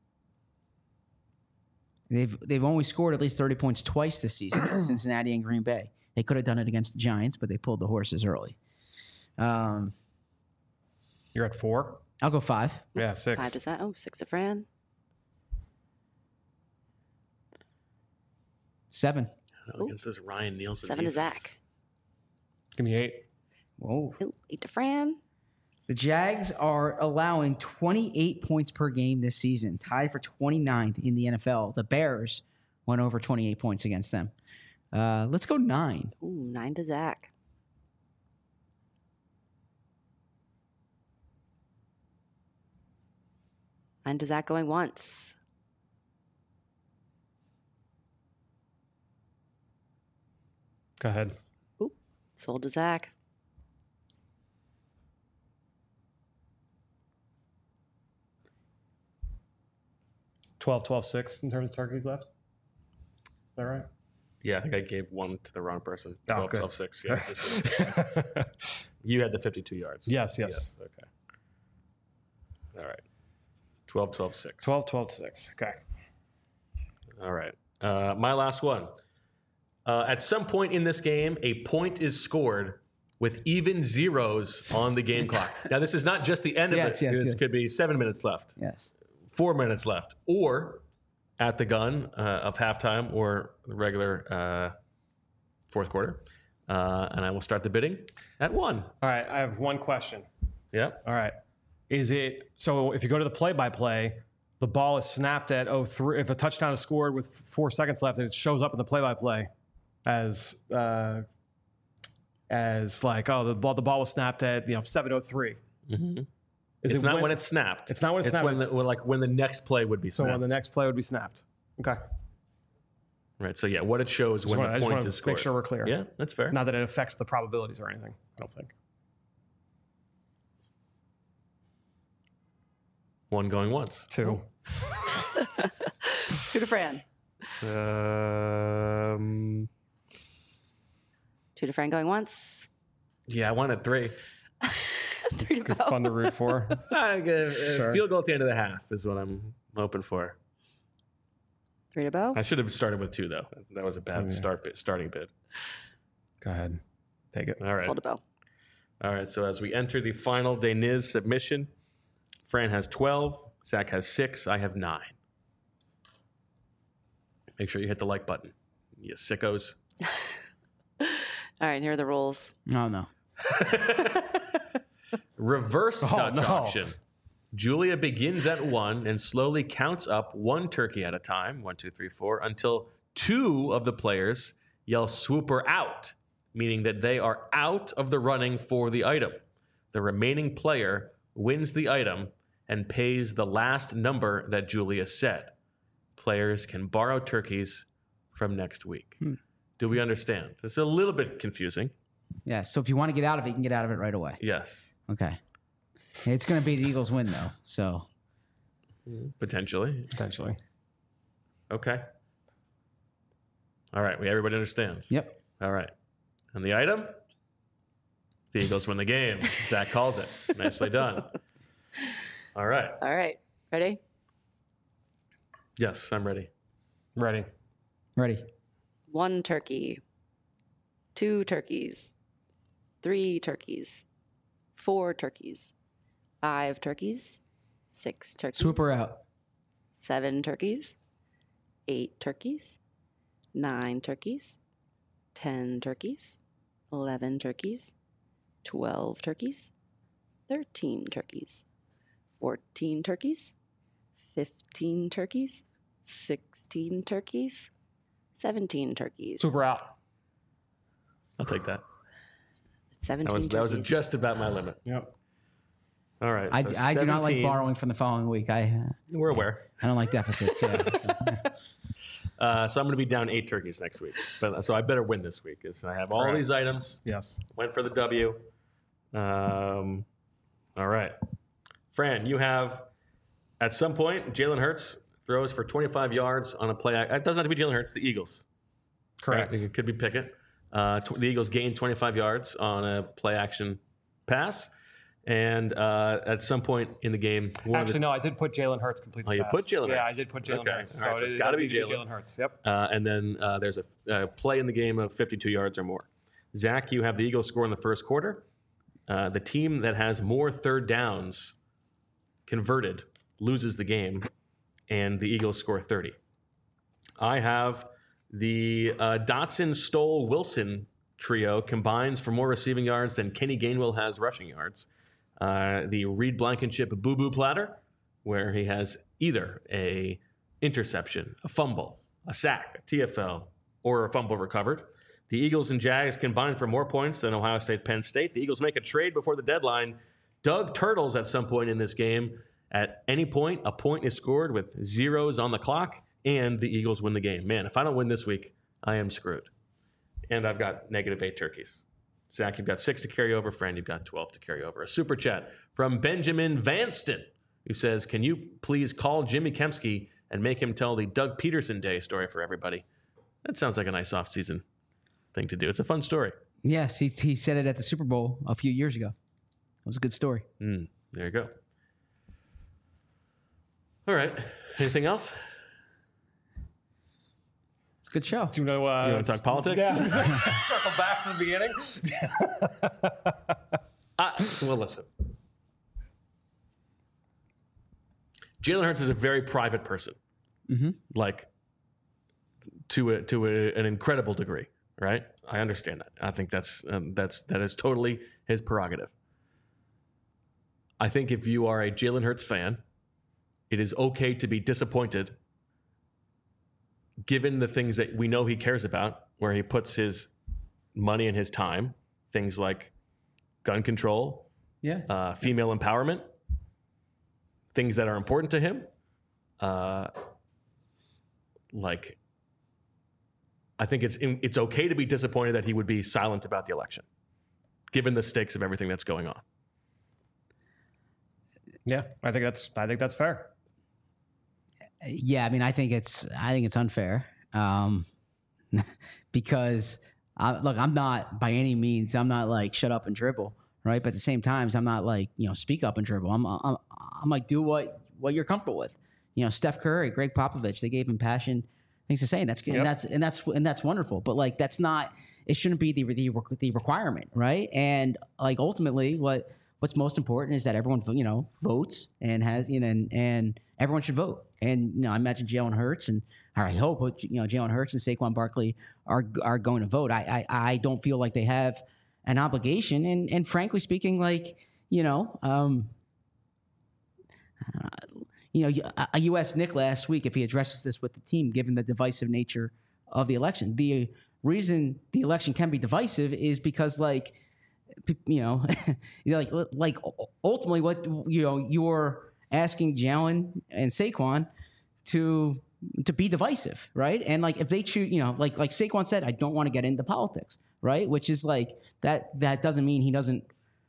They've they've only scored at least thirty points twice this season, Cincinnati and Green Bay. They could have done it against the Giants, but they pulled the horses early. Um, You're at four? I'll go five. Yeah, six. Five to Zach. Oh, six to Fran. Seven. I don't know, against this Ryan Nielsen. Seven to defense. Zach. Give me eight. Whoa. Ooh, eight to Fran. The Jags are allowing twenty-eight points per game this season, tied for twenty-ninth in the N F L. The Bears went over twenty-eight points against them. Uh, let's go nine. Ooh, nine to Zach. Nine to Zach going once. Go ahead. Ooh, sold to Zach. twelve, twelve, six in terms of turkeys left. Is that right? Yeah, I think I gave one to the wrong person. Oh, twelve, good. twelve, six. Yes, this is- you had the fifty-two yards. Yes, yes. Okay. All right. twelve, twelve, six. twelve, twelve, six. Okay. All right. Uh, my last one. Uh, at some point in this game, a point is scored with even zeros on the game clock. Now, this is not just the end of Yes, it. yes, this yes. could be seven minutes left, Yes. four minutes left, or at the gun uh, of halftime or the regular uh, fourth quarter. Uh, and I will start the bidding at one. All right. I have one question. Yep. All right. Is it so if you go to the play by play, the ball is snapped at oh three. If a touchdown is scored with four seconds left, it shows up in the play by play as uh, as like, oh, the ball the ball was snapped at you know seven oh three. Mm-hmm. Is It's it not when, it's snapped. It's not when it's It's snapped. when, the, when like when the next play would be so snapped. when the next play would be snapped. Okay. Right. So yeah, what it shows when wanna- I the just point wanna is scored. make sure we're clear. Yeah, that's fair. Not that it affects the probabilities or anything. I don't think. One going once. Two. Two to Fran. Um. Two to Fran going once. Yeah, I wanted three. Three to Good Bo. fun to root for. I get a Sure. field goal at the end of the half is what I'm hoping for. Three to Bo. I should have started with two though. That was a bad Yeah. start bit, starting bid. Go ahead. Take it. All right. Sold to Bo. All right. So as we enter the final Deniz submission, Fran has twelve. Zach has six. I have nine. Make sure you hit the like button, you sickos. All right, here are the rules. No, no. Reverse Oh, Dutch no. auction. Julia begins at one and slowly counts up one turkey at a time, one, two, three, four, until two of the players yell swooper out, meaning that they are out of the running for the item. The remaining player wins the item and pays the last number that Julia said. Players can borrow turkeys from next week. Hmm. Do we understand? This is a little bit confusing. Yeah, so if you want to get out of it, you can get out of it right away. Yes. Okay. It's going to be the Eagles win, though, so. Potentially. Potentially. Okay. All right, we everybody understands? Yep. All right. And the item? The Eagles win the game. Zach calls it. Nicely done. All right. All right. Ready? Yes, I'm ready. Ready. Ready. One turkey. Two turkeys. Three turkeys. Four turkeys. Five turkeys. Six turkeys. Swooper out. Seven turkeys. Eight turkeys. Nine turkeys. Ten turkeys. Eleven turkeys. Twelve turkeys. Thirteen turkeys. Fourteen turkeys. Fifteen turkeys. Sixteen turkeys. Seventeen turkeys. Super out. I'll take that. Seventeen That was, that was turkeys. just about my limit. Yep. All right. I, so I do not like seventeen. borrowing from the following week. I uh, We're aware. I don't like deficits. Yeah. Uh, so I'm going to be down eight turkeys next week. But so I better win this week because I have all Correct. these items. Yes. Went for the W. Um, all right. Fran, you have at some point Jalen Hurts throws for twenty-five yards on a play. It doesn't have to be Jalen Hurts, the Eagles. Correct. Right? It could be Pickett. Uh, tw- the Eagles gained twenty-five yards on a play action pass. And uh, at some point in the game, one Actually, of the, no, I did put Jalen Hurts complete. Oh, you pass. put Jalen Yeah, Hurts. I did put Jalen Okay. Hurts. All right, so it it's is gotta gonna be Jalen. Jalen Hurts. Yep. uh, and then uh, there's a uh, play in the game of fifty-two yards or more. Zach, you have the Eagles score in the first quarter. Uh, the team that has more third downs converted loses the game, and the Eagles score thirty. I have the uh, Dotson, Stoll, Wilson trio combines for more receiving yards than Kenny Gainwell has rushing yards. Uh, the Reed Blankenship boo-boo platter, where he has either a interception, a fumble, a sack, a T F L, or a fumble recovered. The Eagles and Jags combine for more points than Ohio State, Penn State. The Eagles make a trade before the deadline. Doug Turtles at some point in this game. At any point, a point is scored with zeros on the clock, and the Eagles win the game. Man, if I don't win this week, I am screwed. And I've got negative eight turkeys. Zach, you've got six to carry over. Fran, you've got twelve to carry over. A super chat from Benjamin Vanston, who says, can you please call Jimmy Kempski and make him tell the Doug Peterson Day story for everybody? That sounds like a nice off-season thing to do. It's a fun story. Yes, he he said it at the Super Bowl a few years ago. It was a good story. Mm, there you go. All right. Anything else? It's a good show. Do you know? Uh, You want to talk politics? Yeah. Circle back to the beginning. Uh, well, listen. Jalen Hurts is a very private person, Mm-hmm. like to a, to a, an incredible degree, right? I understand that. I think that's um, that's that is totally his prerogative. I think if you are a Jalen Hurts fan, it is okay to be disappointed, given the things that we know he cares about, where he puts his money and his time, things like gun control, Yeah. uh, female empowerment, things that are important to him. Uh, like, I think it's in, it's okay to be disappointed that he would be silent about the election, given the stakes of everything that's going on. Yeah, I think that's I think that's fair. Yeah, I mean, I think it's I think it's unfair um, because I, look, I'm not by any means I'm not like shut up and dribble, right? But at the same time, I'm not like you know speak up and dribble. I'm I'm, I'm like do what what you're comfortable with. You know, Steph Curry, Greg Popovich, they gave him passion, things to say, and that's Yep. and that's and that's and that's wonderful. But like that's not it shouldn't be the the, the requirement, right? And like ultimately, what what's most important is that everyone you know votes and has you know and, and everyone should vote. And you know, I imagine Jalen Hurts and or I hope you know Jalen Hurts and Saquon Barkley are are going to vote. I, I I don't feel like they have an obligation, and and frankly speaking, like you know, um, uh, you know, I- you asked Nick last week if he addresses this with the team, given the divisive nature of the election. The reason the election can be divisive is because, like, you know, you know, like, like ultimately, what you know, you're asking Jalen and Saquon to to be divisive, right? And like, if they choose, you know, like like Saquon said, I don't want to get into politics, right? Which is like that. That doesn't mean he doesn't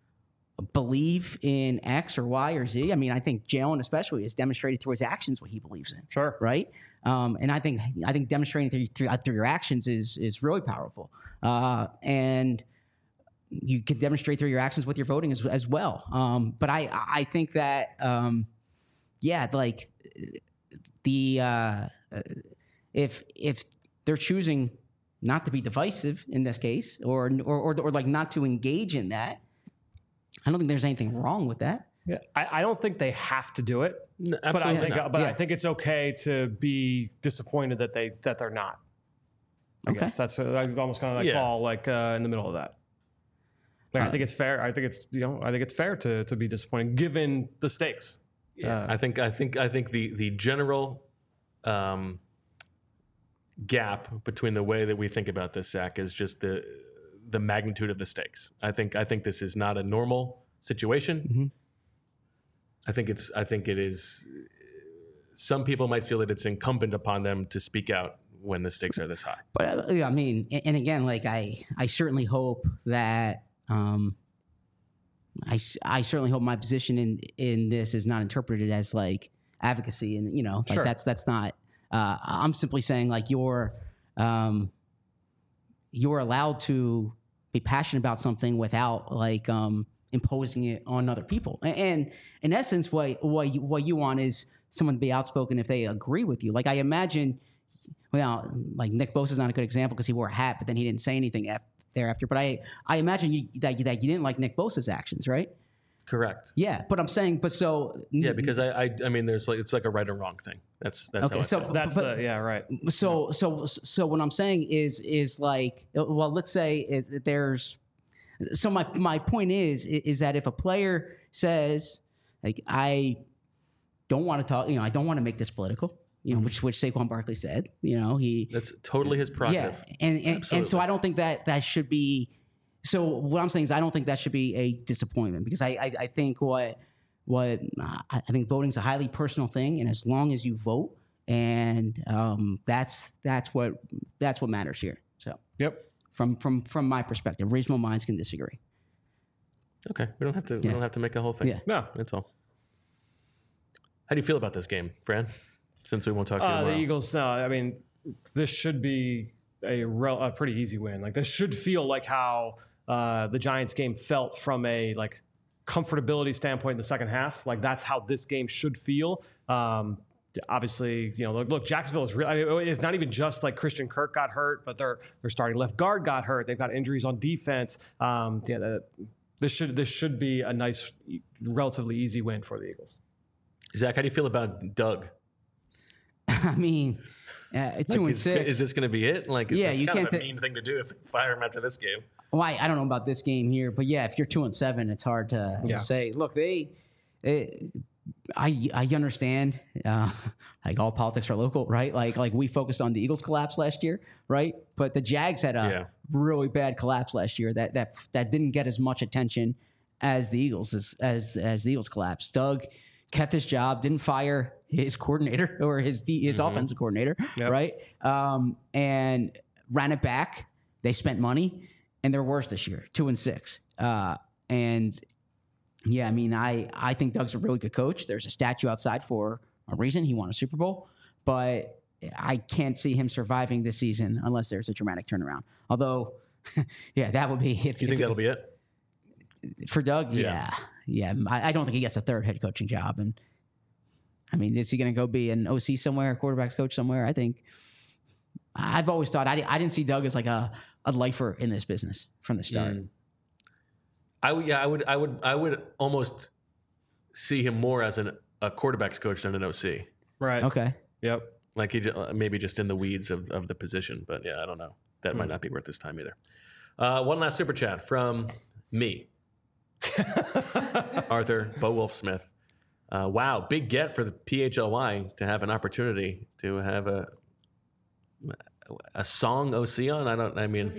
believe in X or Y or Z. I mean, I think Jalen especially has demonstrated through his actions what he believes in. Sure. Right. Um, and I think I think demonstrating through, through, through your actions is is really powerful. Uh, and you can demonstrate through your actions with your voting as as well. Um, but I I think that um, yeah, like the uh, if if they're choosing not to be divisive in this case, or or or, or like not to engage in that, I don't think there's anything wrong with that. Yeah, I, I don't think they have to do it, No, but I absolutely think, not. but Yeah. I think it's okay to be disappointed that they that they're not. I Okay. guess that's uh, I almost kind of like Yeah. fall like uh, in the middle of that. Like, I Uh, think it's fair. I think it's you know I think it's fair to to be disappointed given the stakes. Yeah, Uh, I think I think I think the the general um, gap between the way that we think about this, Zach, is just the the magnitude of the stakes. I think I think this is not a normal situation. Mhm. I think it's I think it is. Some people might feel that it's incumbent upon them to speak out when the stakes are this high. But uh, yeah, I mean, and, and again, like I, I certainly hope that um, I, s- I certainly hope my position in in this is not interpreted as like advocacy, and you know, like Sure. that's that's not. Uh, I'm simply saying like you're um, you're allowed to be passionate about something without like um, imposing it on other people. A- And in essence, what what you, what you want is someone to be outspoken if they agree with you. Like I imagine. Well, like Nick Bosa's not a good example because he wore a hat, but then he didn't say anything af- thereafter. But I, I imagine you, that, you, that you didn't like Nick Bosa's actions, right? Correct. Yeah, but I'm saying, but so Yeah, because I, I I mean, there's like it's like a right or wrong thing. That's that's Okay, how I so- feel. that's but- the yeah right. so so so what I'm saying is is like, well, let's say it, there's. So my my point is is that if a player says like I don't want to talk, you know, I don't want to make this political. You know, which which Saquon Barkley said. You know, he That's totally his prerogative. yeah, and and, and so Absolutely. I don't think that that should be. So what I'm saying is I don't think that should be a disappointment because I I, I think what what uh, I I think voting is a highly personal thing, and as long as you vote, and um, that's that's what that's what matters here. So Yep. from from from my perspective, reasonable minds can disagree. Okay, we don't have to we Yeah. don't have to make a whole thing. Yeah. No. That's all. How do you feel about this game, Fran? Since we won't talk to you Uh, the tomorrow. Eagles. No, I mean this should be a, rel- a pretty easy win. Like this should feel like how uh, the Giants game felt from a like comfortability standpoint in the second half. Like that's how this game should feel. Um, obviously, you know, look, look Jacksonville is real. I mean, it's not even just like Christian Kirk got hurt, but their their starting left guard got hurt. They've got injuries on defense. Um, yeah, the, this should this should be a nice, relatively easy win for the Eagles. Zach, how do you feel about Doug? I mean, uh, two Like, and is, six. Is this going to be it? Like, Yeah, that's you kind can't of a ta- mean thing to do if you fire him after this game. Well, I, I don't know about this game here, but yeah, if you're two and seven, it's hard to Yeah. say. Look, they, they I I understand. Uh, like all politics are local, right? Like like we focused on the Eagles collapse last year, right? But the Jags had a Yeah. really bad collapse last year that that that didn't get as much attention as the Eagles as as, as the Eagles collapse. Doug kept his job, didn't fire his coordinator or his D, his offensive coordinator, Yep. right? Um, and ran it back. They spent money, and they're worse this year, two and six. Uh, and yeah, I mean, I I think Doug's a really good coach. There's a statue outside for a reason. He won a Super Bowl, but I can't see him surviving this season unless there's a dramatic turnaround. Although, yeah, that would be if Do you think if- that'll be it? for Doug. Yeah. Yeah, yeah. I, I don't think he gets a third head coaching job. And I mean, is he going to go be an O C somewhere, a quarterbacks coach somewhere? I think. I've always thought I, di- I didn't see Doug as like a, a lifer in this business from the start. Mm. I would, yeah, I would, I would, I would almost see him more as an, a quarterbacks coach than an O C. Right. Okay. Yep. Like he ju- maybe just in the weeds of, of the position, but yeah, I don't know. That might not be worth his time either. Uh, one last super chat from me, Arthur Bo Wolf Smith. Uh, wow, big get for the P H L Y to have an opportunity to have a a song O C on. I don't. I mean,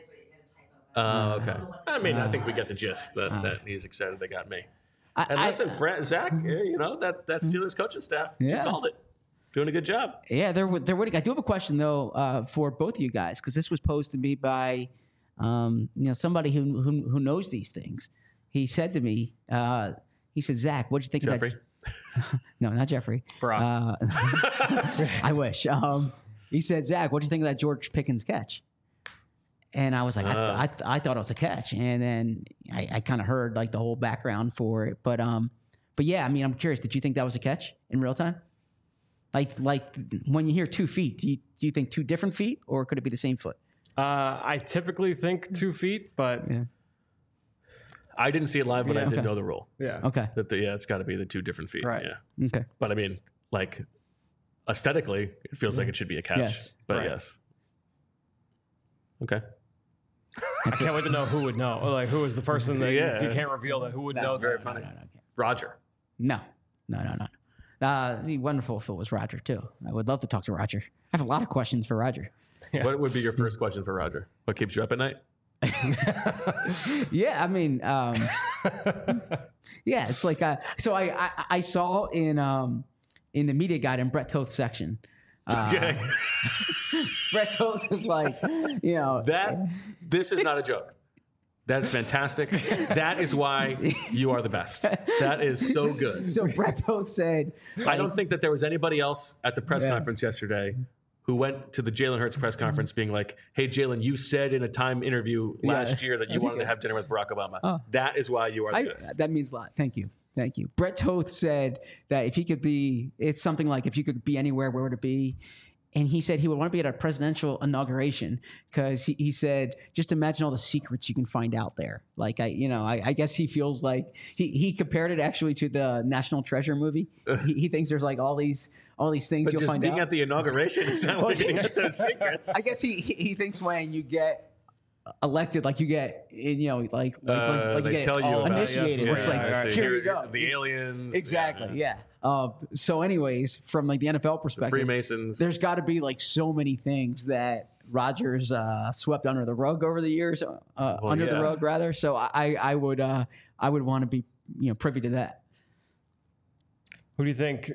oh, okay. I mean, I think we get the gist that, Uh. that he's excited they got me. I, And I- listen, Fran, Zach, eh, you know that that Steelers coaching staff, you Yeah. called it, doing a good job. Yeah, they're they're waiting. I do have a question though uh, for both of you guys because this was posed to me by um, you know somebody who, who who knows these things. He said to me, uh, he said, "Zach, what do you think Jeffrey, of that?" No, not Jeffrey. Brock. Uh, I wish. Um, he said, "Zach, what do you think of that George Pickens catch?" And I was like, I, th- Uh. I, th- I thought it was a catch, and then I, I kind of heard like the whole background for it. But um, but yeah, I mean, I'm curious. Did you think that was a catch in real time? Like like when you hear two feet, do you do you think two different feet, or could it be the same foot? Uh, I typically think two feet, but Yeah. I didn't see it live, but I Yeah. did Okay. know the rule. yeah. Okay. That the, yeah, it's got to be the two different feet. Right. Yeah, Okay. but I mean, like aesthetically, it feels like it should be a catch. Yes. But Right. yes. Okay. I can't wait to know who would know. Like, who is the person that Yeah. you, you can't reveal that? Who would know? very that? funny. No, no, no, Roger. no, no, no, no. Uh, it'd be wonderful if it was Roger too. I would love to talk to Roger. I have a lot of questions for Roger. What would be your first question for Roger? What keeps you up at night? Yeah, I mean, um, yeah, it's like uh, so. I, I I saw in um in the media guide in Brett Toth's section. Uh, Okay. Brett Toth was like, you know, That this is not a joke. That is fantastic. That is why you are the best. That is so good. so Brett Toth said, I don't think that there was anybody else at the press Yeah. conference yesterday who went to the Jalen Hurts press conference being like, "Hey, Jalen, you said in a Time interview Yeah. last year that I you think wanted to it- have dinner with Barack Obama." Oh. That is why you are the I, best. that means a lot. Thank you. Thank you. Brett Toth said that if he could be, it's something like if you could be anywhere, where would it be? And he said he would want to be at a presidential inauguration because he, he said, just imagine all the secrets you can find out there. Like, I, you know, I, I guess he feels like he, he compared it actually to the National Treasure movie. he, he thinks there's like all these, all these things But you'll just find being out. at the inauguration is not Well, where you're going to get those secrets. I guess he, he he thinks when you get elected, like you get, you know, like like, like, Uh, like you they get tell you all about- initiated. yes, where it's yeah, like, I see. here you go. The aliens. Exactly. Yeah. Uh, so, anyways, from like the N F L The perspective, Freemasons. there's got to be like so many things that Rodgers uh, swept under the rug over the years, uh, Well, under the yeah. rug rather. So, I I would uh, I would want to be you know privy to that. Who do you think?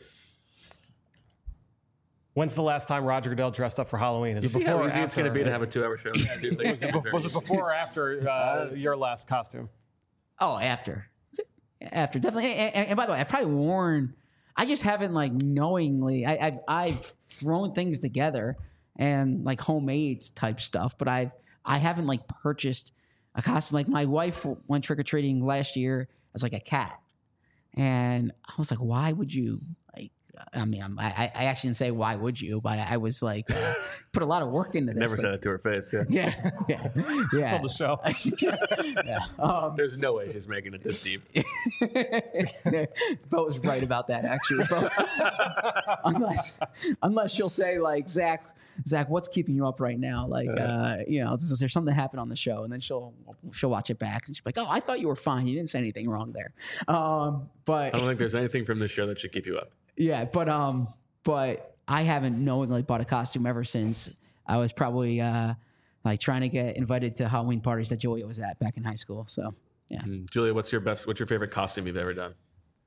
When's the last time Roger Goodell dressed up for Halloween? Is You it see before how or easy it's going to be to after? have a two-hour show? Tuesday. Was it, bef- was it before or after uh, your last costume? Oh, after, after definitely. And, and- and by the way, I've probably worn. I just haven't like knowingly. I, I've I've thrown things together and like homemade type stuff, but I've I haven't like purchased a costume. Like my wife went trick or treating last year as like a cat, and I was like, why would you like? I mean, I'm, I I actually didn't say why would you, but I was like, uh, put a lot of work into this. Never like, said it to her face. Yeah. Yeah, yeah, yeah. Still the show. yeah. Um, There's no way she's making it this deep. Bo was right about that, actually. Bo. unless, unless she'll say like, Zach, Zach, what's keeping you up right now? Like, uh, you know, is there something that happened on the show? And then she'll she'll watch it back and she'll be like, oh, I thought you were fine. You didn't say anything wrong there. Um, but I don't think there's anything from this show that should keep you up. yeah, but um, but I haven't knowingly bought a costume ever since I was probably uh, like trying to get invited to Halloween parties that Julia was at back in high school. So yeah. Mm. Julia, what's your best? What's your favorite costume you've ever done?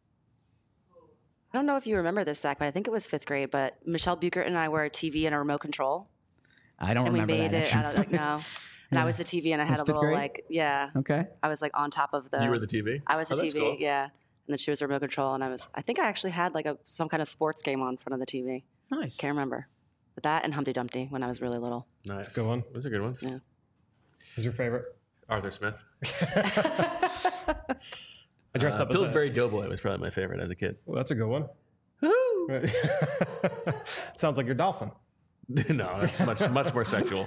I don't know if you remember this, Zach, but I think it was fifth grade. But Michelle Buchert and I were a T V and a remote control, I don't and we remember made that. it. actually. I don't like no, and I was the T V, and I had Was a fifth little grade? like yeah, Okay. I was like on top of the. You were the T V. I was the Oh, that's T V, cool. yeah, and then she was remote control, and I was. I think I actually had like a some kind of sports game on front of the T V. Nice. Can't remember, but that and Humpty Dumpty when I was really little. Nice. Good one. Those are good ones. Yeah. Who's your favorite? Arthur Smith. I dressed Uh, up as a, Pillsbury Doughboy was probably my favorite as a kid. well, that's a good one. Sounds like your dolphin. No, that's much much more sexual.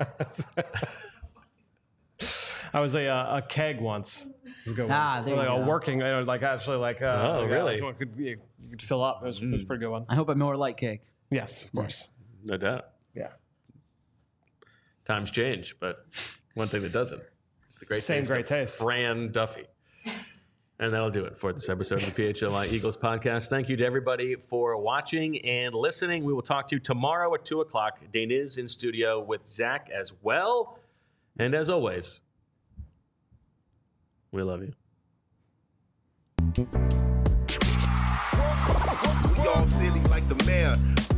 I was a uh, a keg once. It was a good one. Ah, there like you a go. working, you know, like actually like. Uh, Oh, like, uh, really? someone could be, you could fill up. It was, it was a pretty good one. I hope I'm more like cake. Yes, of course. No doubt. Yeah. Times change, but one thing that doesn't is the great Same taste great of taste. Fran Duffy. And that'll do it for this episode of the P H L Y Eagles podcast. Thank you to everybody for watching and listening. We will talk to you tomorrow at two o'clock. Dane is in studio with Zach as well. And as always, we love you. We all silly like the mayor.